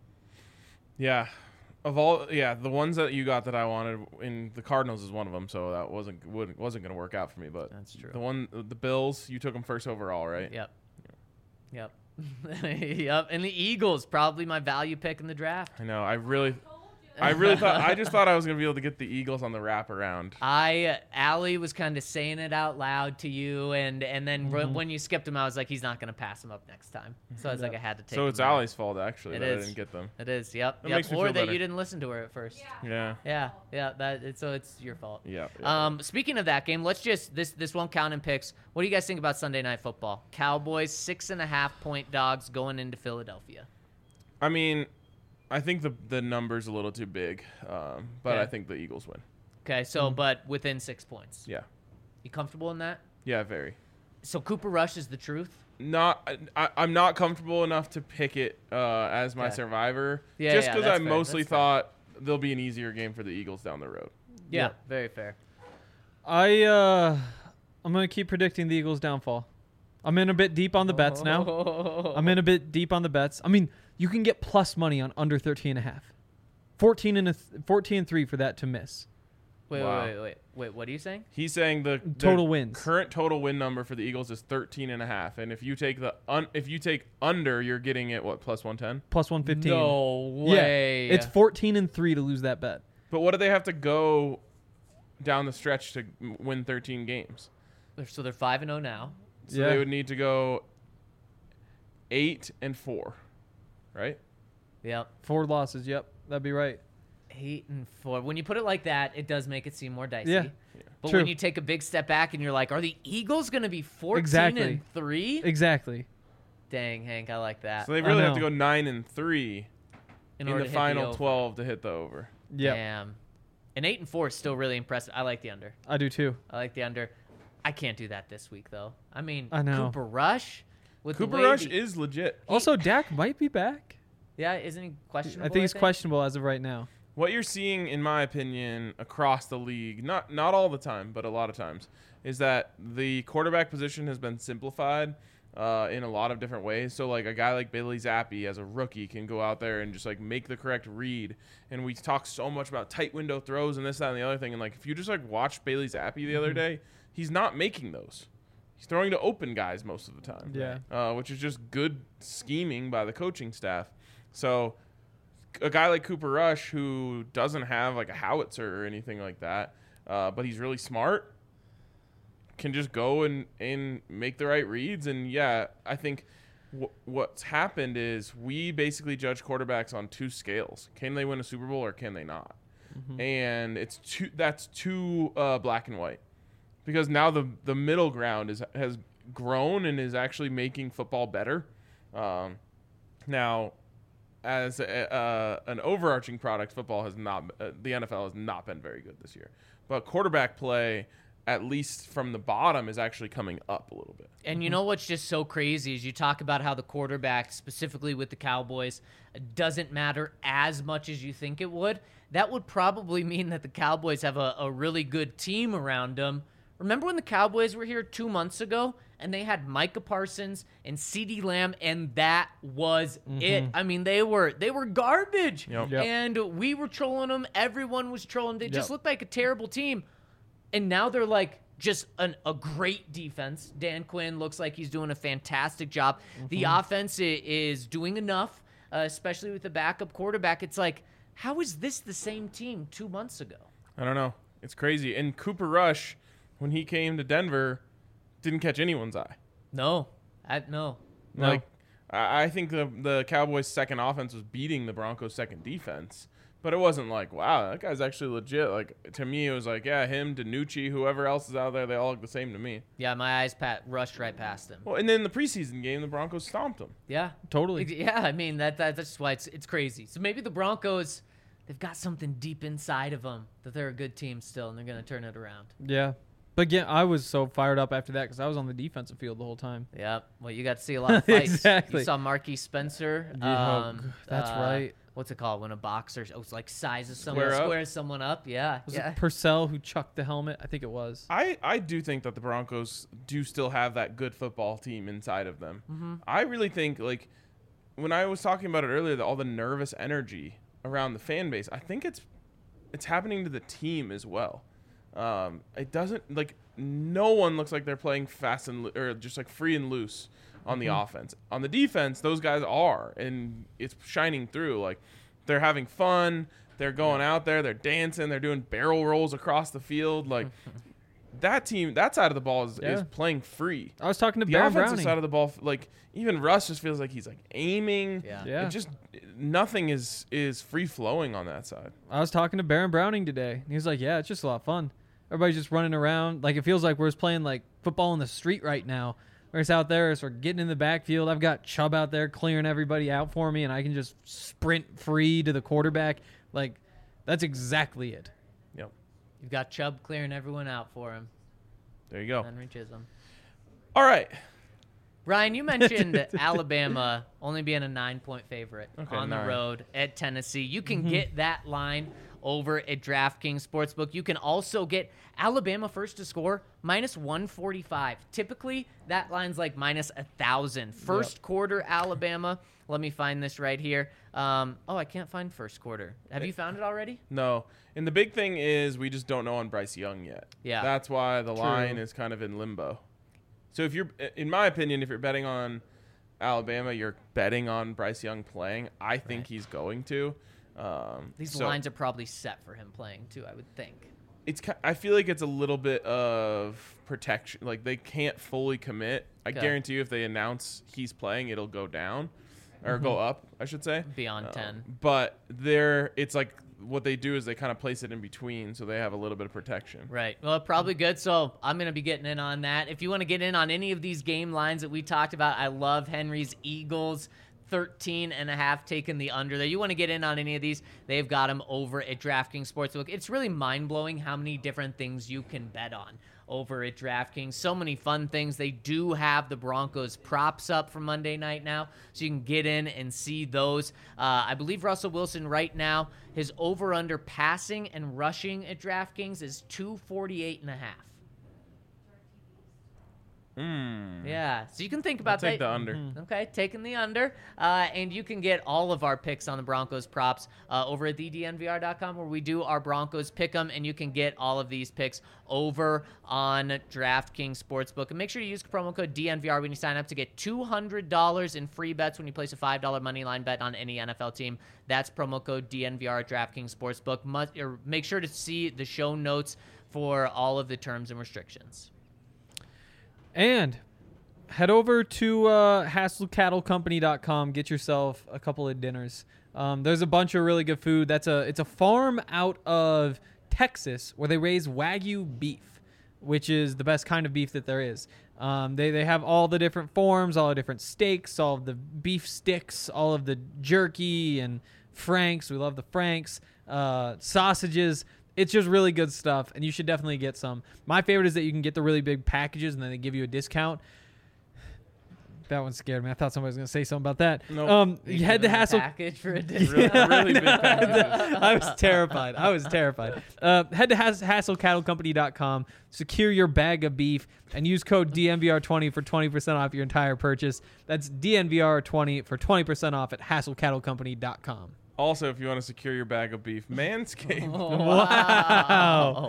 Yeah. Of all, the ones that you got that I wanted, in the Cardinals is one of them, so that wasn't going to work out for me. But That's true. The Bills, you took them first overall, right? Yep. Yep. And the Eagles, probably my value pick in the draft. I know. I really Told you. I just thought I was going to be able to get the Eagles on the wraparound. Allie was kind of saying it out loud to you, and then when you skipped him, I was like, he's not going to pass him up next time. So I was like, I had to take So him it's there. Allie's fault actually It that I is. didn't get them. It is, yep. That makes me Or feel that better. you didn't listen to her at first. Yeah. Yeah. So it's your fault. Yeah. Speaking of that game, let's just this won't count in picks. What do you guys think about Sunday Night Football? Cowboys 6.5-point dogs going into Philadelphia. I mean, I think the number's a little too big, but Okay. I think the Eagles win. Okay, so but within 6 points. Yeah. You comfortable in that? Yeah, very. So Cooper Rush is the truth. I'm not comfortable enough to pick it as my Okay. survivor. Yeah, just yeah, because that's I fair, mostly that's fair. thought there'll be an easier game for the Eagles down the road. Yeah, very fair. I'm gonna keep predicting the Eagles' downfall. I'm in a bit deep on the bets now. I'm in a bit deep on the bets. I mean, you can get plus money on under 13.5. 14 and 3 for that to miss. Wow. Wait. What are you saying? He's saying the Total wins. current total win number for the Eagles is 13.5, and if you take if you take under, you're getting it what, plus 110? Plus 115. No Yeah, way. it's 14 and 3 to lose that bet. But what do they have to go down the stretch to win 13 games? So they're 5-0 now. So Yeah. they would need to go 8-4, right? Yep. 4 losses. Yep, that'd be right. 8-4. When you put it like that, it does make it seem more dicey. Yeah. But True. when you take a big step back and you're like, are the Eagles going to be 14 Exactly. and 3? Exactly. Dang, Hank, I like that. So they really have to know. go 9-3 in in order the to hit final over. 12 to hit the over. Yep, Damn. And 8-4 is still really impressive. I like the under. I do too. I like the under. I can't do that this week though. I mean, I know. Cooper Rush with the Cooper way Rush the- is legit. Also, Dak might be back. Yeah, isn't he questionable? I think he's questionable as of right now. What you're seeing, in my opinion, across the league, not all the time, but a lot of times, is that the quarterback position has been simplified in a lot of different ways. So, like, a guy like Bailey Zappi, as a rookie, can go out there and just, like, make the correct read. And we talk so much about tight window throws and this, that, and the other thing. And, like, if you just, like, watch Bailey Zappi the other day, he's not making those. He's throwing to open guys most of the time. Yeah. Which is just good scheming by the coaching staff. So a guy like Cooper Rush, who doesn't have like a howitzer or anything like that, but he's really smart, can just go and make the right reads. And yeah, I think what's happened is we basically judge quarterbacks on two scales. Can they win a Super Bowl or can they not? And that's too black and white, because now the middle ground has grown and is actually making football better. Now, as an overarching product, football has not, the NFL has not been very good this year. But quarterback play, at least from the bottom, is actually coming up a little bit. And you know what's just so crazy is you talk about how the quarterback, specifically with the Cowboys, doesn't matter as much as you think it would. That would probably mean that the Cowboys have a really good team around them. Remember when the Cowboys were here 2 months ago and they had Micah Parsons and CeeDee Lamb, and that was it? I mean, they were garbage. Yep. And we were trolling them. Everyone was trolling. They just Yep. looked like a terrible team. And now they're like just a great defense. Dan Quinn looks like he's doing a fantastic job. The offense is doing enough, especially with the backup quarterback. It's like, how is this the same team 2 months ago? I don't know. It's crazy. And Cooper Rush, when he came to Denver, didn't catch anyone's eye. No. No. Like, I think the Cowboys' second offense was beating the Broncos' second defense. But it wasn't like, wow, that guy's actually legit. Like, to me, it was like, yeah, him, DiNucci, whoever else is out there, they all look the same to me. Yeah, my eyes rushed right past him. Well, and then the preseason game, the Broncos stomped them. Yeah. Totally. Yeah, I mean, that's just why it's crazy. So maybe the Broncos, they've got something deep inside of them that they're a good team still, and they're going to turn it around. Yeah. But yeah, I was so fired up after that because I was on the defensive field the whole time. Yeah, well, you got to see a lot of fights. Exactly. You saw Marquise Spencer. That's right. What's it called when a boxer like sizes someone, Square up? squares someone up? Yeah, Was yeah. it Purcell who chucked the helmet? I think it was. I do think that the Broncos do still have that good football team inside of them. I really think, like, when I was talking about it earlier, all the nervous energy around the fan base, I think it's happening to the team as well. It doesn't, like, no one looks like they're playing fast or just like free and loose on the offense. On the defense, those guys are, and it's shining through. Like, they're having fun. They're going out there. They're dancing. They're doing barrel rolls across the field. Like, that team, that side of the ball is playing free. I was talking to The Baron offensive Browning. side of the ball, like, even Russ just feels like he's like aiming. Yeah. Yeah. It just, nothing is free flowing on that side. I was talking to Baron Browning today. He was like, yeah, it's just a lot of fun. Everybody's just running around. Like, it feels like we're just playing, like, football in the street right now. We're just out there, so we're getting in the backfield. I've got Chubb out there clearing everybody out for me, and I can just sprint free to the quarterback. Like, that's exactly it. Yep. You've got Chubb clearing everyone out for him. There you go. Henry Chisholm. All right. Ryan, you mentioned Alabama only being a 9-point favorite on the 9. road at Tennessee. You can get that line over at DraftKings Sportsbook. You can also get Alabama first to score minus 145. Typically, that line's like minus 1,000. First quarter Alabama. Let me find this right here. I can't find first quarter. Have you found it already? No. And the big thing is we just don't know on Bryce Young yet. Yeah. That's why the line is kind of in limbo. So if you're, in my opinion, if you're betting on Alabama, you're betting on Bryce Young playing. I think he's going to. These lines are probably set for him playing too, I would think. I feel like it's a little bit of protection. Like, they can't fully commit. I guarantee you if they announce he's playing, it'll go down or go up, I should say. Beyond 10. But it's like what they do is they kind of place it in between so they have a little bit of protection. Right. Well, probably good. So I'm going to be getting in on that. If you want to get in on any of these game lines that we talked about, I love Henry's Eagles. 13.5 taking the under there. You want to get in on any of these, they've got them over at DraftKings Sportsbook. It's really mind-blowing how many different things you can bet on over at DraftKings. So many fun things. They do have the Broncos props up for Monday night now, so you can get in and see those. I believe Russell Wilson right now, his over-under passing and rushing at DraftKings is 248.5. Yeah, so you can think about Take that. the under. Okay, taking the under. And you can get all of our picks on the Broncos props over at thednvr.com, where we do our Broncos pick 'em, and you can get all of these picks over on DraftKings Sportsbook. And make sure you use promo code DNVR when you sign up to get $200 in free bets when you place a $5 money line bet on any NFL team. That's promo code DNVR at DraftKings Sportsbook. Make sure to see the show notes for all of the terms and restrictions. And Head over to hasslecattlecompany.com. Get yourself a couple of dinners. There's a bunch of really good food. It's a farm out of Texas where they raise Wagyu beef, which is the best kind of beef that there is. They have all the different forms, all the different steaks, all of the beef sticks, all of the jerky and franks. We love the franks, sausages. It's just really good stuff, and you should definitely get some. My favorite is that you can get the really big packages, and then they give you a discount. That one scared me. I thought somebody was going to say something about that. Nope. You had the hassle. Package for a Really, really big package. I was terrified. Head to hasslecattlecompany.com, secure your bag of beef, and use code DNVR20 for 20% off your entire purchase. That's DNVR20 for 20% off at hasslecattlecompany.com. Also, if you want to secure your bag of beef, Manscaped. Wow.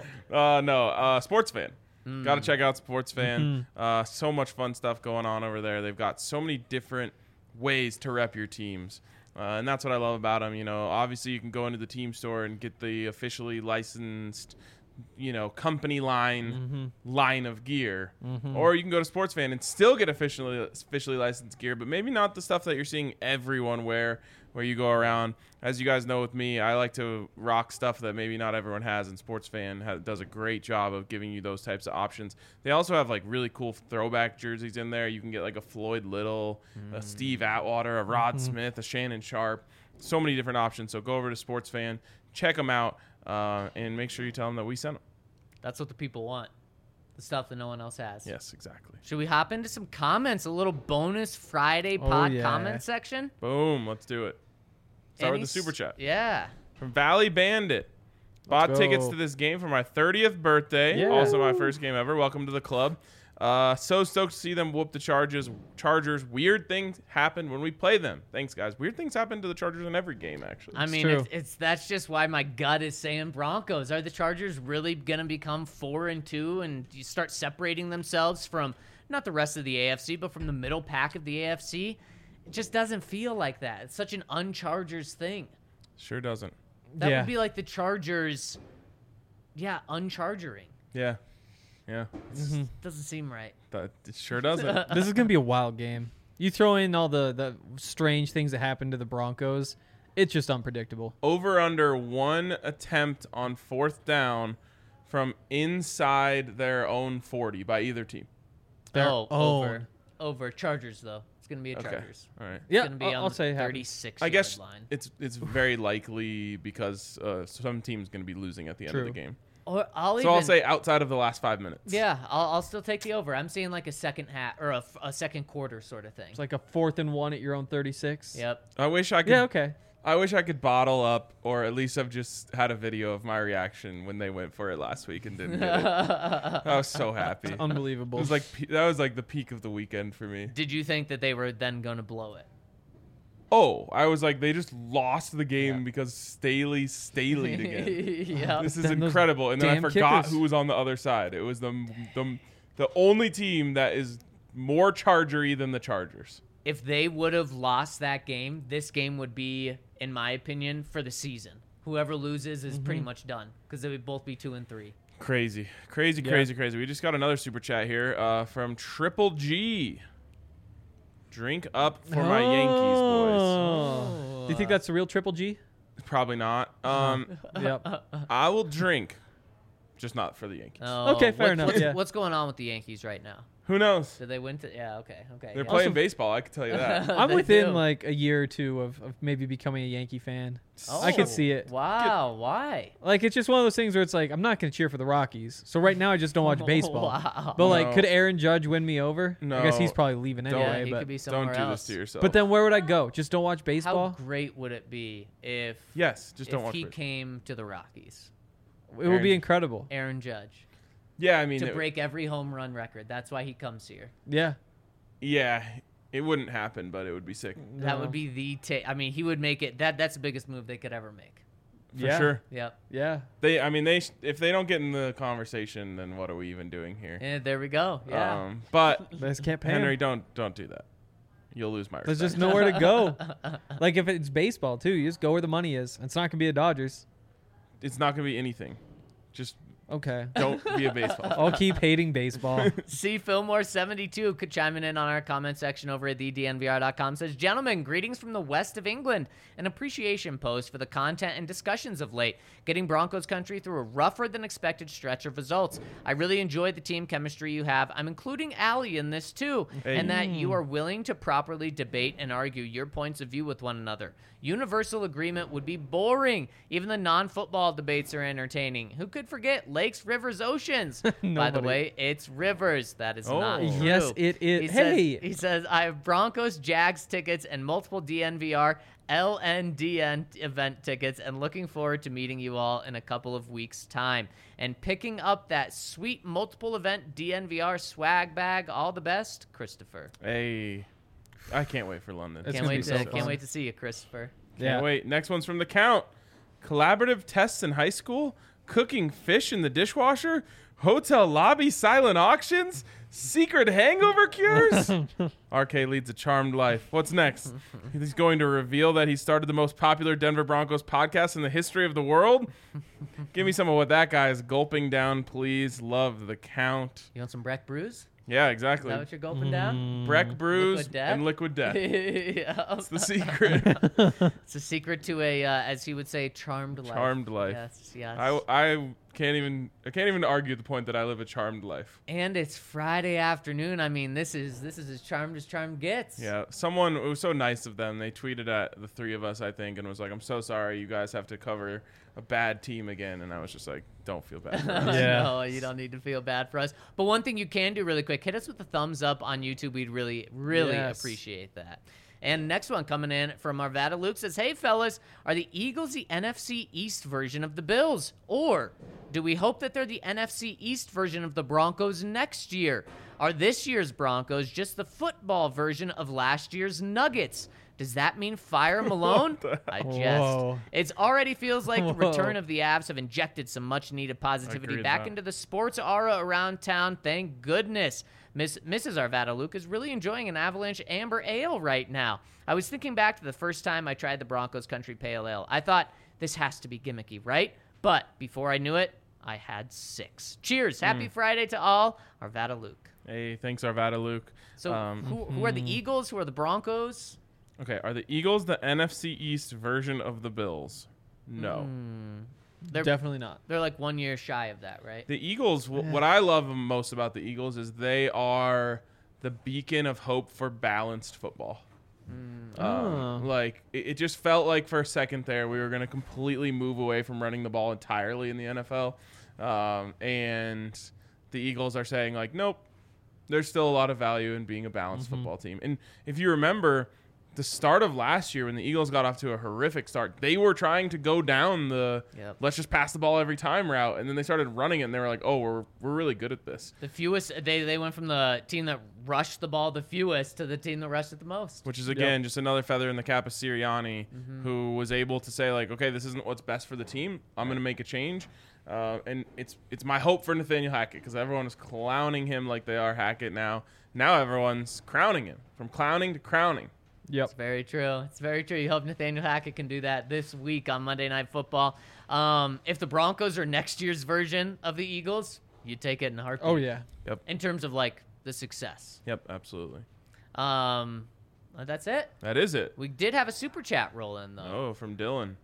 Sports Fan. Got to check out Sports Fan. So much fun stuff going on over there. They've got so many different ways to rep your teams. And that's what I love about them. You know, obviously you can go into the team store and get the officially licensed, company line of gear. Or you can go to Sports Fan and still get officially licensed gear, but maybe not the stuff that you're seeing everyone wear where you go around. As you guys know with me, I like to rock stuff that maybe not everyone has, and Sports Fan does a great job of giving you those types of options. They also have like really cool throwback jerseys in there. You can get like a Floyd Little, a Steve Atwater, a Rod Smith, a Shannon Sharp. So many different options. So go over to Sports Fan, check them out, and make sure you tell them that we sent them. That's what the people want. The stuff that no one else has. Yes, exactly. Should we hop into some comments? A little bonus Friday pod comment section? Boom. Let's do it. Start with the super chat. Yeah. From Valley Bandit. Bought go. tickets to this game for my 30th birthday. Yeah. Also my first game ever. Welcome to the club. So stoked to see them whoop the Chargers. Weird things happen when we play them. Thanks, guys. Weird things happen to the Chargers in every game, actually. I mean, true. that's just why my gut is saying Broncos. Are the Chargers really going to become 4-2 and you start separating themselves from not the rest of the AFC, but from the middle pack of the AFC? It just doesn't feel like that. It's such an un-Chargers thing. Sure doesn't. That Yeah. would be like the Chargers, unchargering. Yeah. Yeah. Doesn't seem right. It sure doesn't. This is going to be a wild game. You throw in all the strange things that happened to the Broncos, it's just unpredictable. Over under one attempt on fourth down from inside their own 40 by either team. Their Over Chargers though. It's gonna be a Okay. Chargers. All right. Yeah, It's gonna be I'll on the say it happens. 36 I guess line. it's very likely because some team's going to be losing at the end of True. the game. Or I'll So I'll say outside of the last 5 minutes. yeah, I'll still take the over. I'm seeing like a second half or a second quarter sort of thing. It's like a 4th and 1 at your own 36. Yep. I wish I could. Yeah, okay. I wish I could bottle up, or at least have just had a video of my reaction when they went for it last week and didn't get it. I was so happy. It Unbelievable. was like that was like the peak of the weekend for me. Did you think that they were then going to blow it? Oh, I was like, they just lost the game because Staley'd again. Yeah. This is Then those incredible. And then I damn forgot kickers. who was on the other side. It was the only team that is more Chargery than the Chargers. If they would have lost that game, this game would be, in my opinion, for the season. Whoever loses is pretty much done because they would both be 2-3. Crazy. We just got another super chat here from Triple G. Drink up for my Yankees, boys. Do you think that's the real Triple G? Probably not. Yep. I will drink, just not for the Yankees. Okay, fair enough, yeah. What's going on with the Yankees right now? Who knows? Did they win? Yeah, okay. They're yeah. playing baseball, I can tell you that. I'm They within do. like a year or two of maybe becoming a Yankee fan. Oh, I could see it. Wow, why? Like, it's just one of those things where it's like, I'm not going to cheer for the Rockies. So right now I just don't watch baseball. Wow. But like, No. could Aaron Judge win me over? I guess he's No. probably leaving Don't. anyway. Yeah, he but could be Don't somewhere do else. this to yourself. but then where would I go? Just don't watch baseball? How great would it be if yes, just don't if watch he it. came to the Rockies? It would be Aaron- incredible. Aaron Judge Yeah, I mean, to break every home run record. That's why he comes here. Yeah. yeah, it wouldn't happen, but it would be sick That No. would be the I mean, he would make it. That's the biggest move they could ever make. for Yeah. sure. Yep. Yeah. If they don't get in the conversation, then what are we even doing here? And there we go. Yeah. But They just can't pay him. Henry, don't do that. You'll lose my respect. There's just nowhere to go. Like, if it's baseball, too, you just go where the money is. It's not going to be the Dodgers. It's not gonna be anything. Just Okay. Don't be a baseball fan. I'll keep hating baseball. C. Fillmore72 could chime in on our comment section over at thednvr.com. Says, gentlemen, greetings from the west of England. An appreciation post for the content and discussions of late, getting Broncos country through a rougher than expected stretch of results. I really enjoyed the team chemistry you have. I'm including Allie in this too, and that you are willing to properly debate and argue your points of view with one another. Universal agreement would be boring. Even the non-football debates are entertaining. Who could forget lakes, rivers, oceans? By the Nobody. way, it's rivers. That is not Oh. true. Yes, it is. He says, I have Broncos, Jags tickets, and multiple DNVR, LNDN event tickets, and looking forward to meeting you all in a couple of weeks' time. And picking up that sweet multiple event DNVR swag bag. All the best, Christopher. Hey, I can't wait for London. It's Can't gonna wait be so to can't fun. wait to see you, Christopher. Can't wait. Next one's from the Count. Collaborative tests in high school, cooking fish in the dishwasher, hotel lobby silent auctions, secret hangover cures. RK leads a charmed life. What's next? He's going to reveal that he started the most popular Denver Broncos podcast in the history of the world. Give me some of what that guy is gulping down, please. Love the Count. You want some Breck Brews? Yeah, Is exactly. that what you're gulping down? Breck Brews Liquid Death? and Liquid Death. Yeah. That's the secret. It's a secret to a, as he would say, charmed life. Charmed life. Yes, yes. I can't even argue the point that I live a charmed life. And it's Friday afternoon. I mean, this is as charmed gets. Yeah, someone, it was so nice of them. They tweeted at the three of us, I think, and was like, "I'm so sorry, you guys have to cover a bad team again." And I was just like, "Don't feel bad for us." Yeah. No, you don't need to feel bad for us. But one thing you can do really quick, hit us with a thumbs up on YouTube. We'd really, really Yes. appreciate that. And next one coming in from Arvada Luke says, hey, fellas, are the Eagles the NFC East version of the Bills? Or do we hope that they're the NFC East version of the Broncos next year? Are this year's Broncos just the football version of last year's Nuggets? Does that mean fire Malone? I jest. Whoa. It already feels like the Whoa. return of the Avs have injected some much-needed positivity agree with back that. into the sports aura around town. Thank goodness. Mrs. Arvada Luke is really enjoying an Avalanche Amber Ale right now. I was thinking back to the first time I tried the Broncos Country Pale Ale. I thought, this has to be gimmicky, right? But before I knew it, I had 6. Cheers. Happy Friday to all. Arvada Luke. Hey, thanks, Arvada Luke. So who are the Eagles? Who are the Broncos? Okay, are the Eagles the NFC East version of the Bills? No. They're Definitely not. They're like 1 year shy of that, right? The Eagles, what I love most about the Eagles is they are the beacon of hope for balanced football. Like, it just felt like for a second there we were going to completely move away from running the ball entirely in the NFL. And the Eagles are saying, like, nope, there's still a lot of value in being a balanced football team. And if you remember, the start of last year when the Eagles got off to a horrific start, they were trying to go down the let's just pass the ball every time route, and then they started running it, and they were like, oh, we're really good at this. The fewest, they went from the team that rushed the ball the fewest to the team that rushed it the most. Which is, again, just another feather in the cap of Sirianni, who was able to say, like, okay, this isn't what's best for the team. I'm going to make a change. And it's my hope for Nathaniel Hackett, because everyone is clowning him like they are Hackett now. Now everyone's crowning him, from clowning to crowning. Yep. It's very true. It's very true. You hope Nathaniel Hackett can do that this week on Monday Night Football. If the Broncos are next year's version of the Eagles, you take it in a heartbeat. Oh yeah. Yep. In terms of, like, the success. Yep, absolutely. That's it. That is it. We did have a super chat roll in, though. Oh, from Dylan.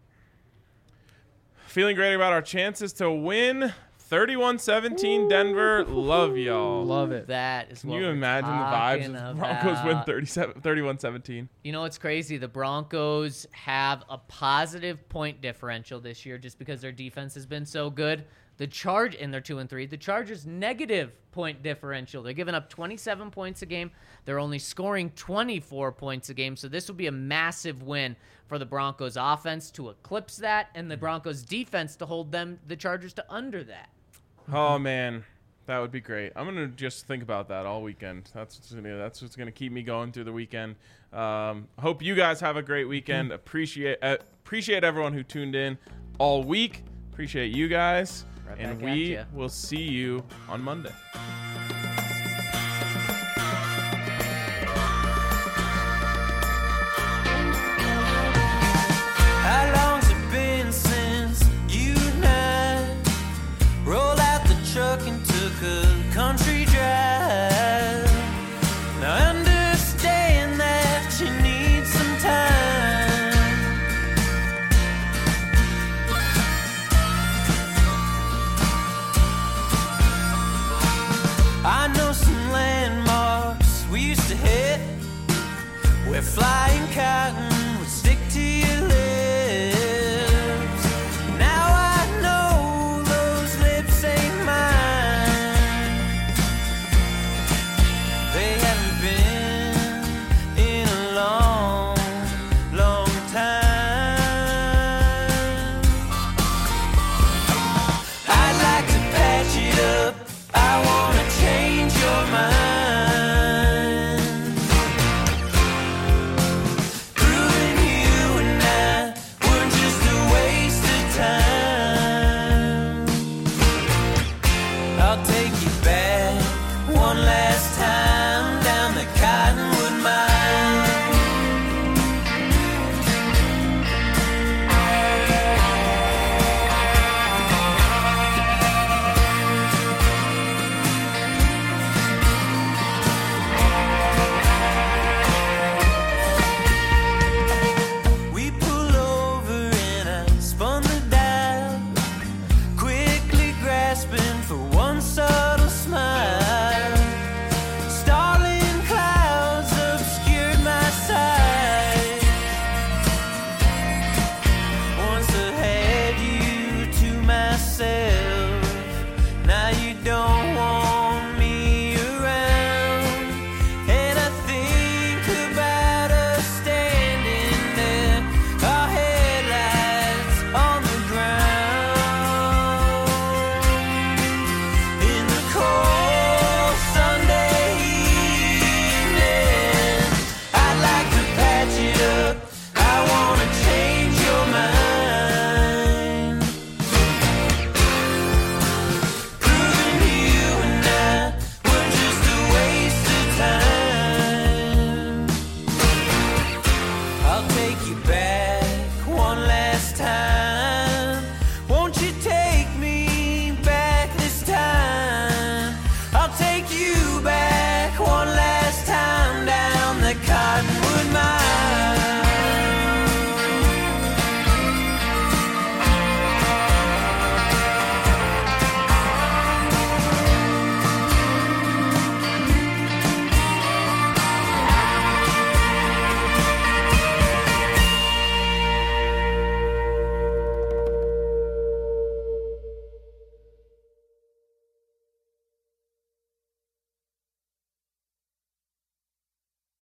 Feeling great about our chances to win. 31-17 Denver. Love y'all. Love it. That is Can what you we're imagine the vibes talking if Broncos win about. 31-17? You know what's crazy? The Broncos have a positive point differential this year just because their defense has been so good. The Charge, and they're 2-3. The Chargers negative point differential. They're giving up 27 points a game. They're only scoring 24 points a game. So this will be a massive win for the Broncos offense to eclipse that, and the Broncos defense to hold the Chargers to under that. Oh, man. That would be great. I'm going to just think about that all weekend. That's what's going to keep me going through the weekend. Hope you guys have a great weekend. Appreciate everyone who tuned in all week. Appreciate you guys. Right And back at we ya. will see you on Monday. How long's it been since you and I rolled out one last time.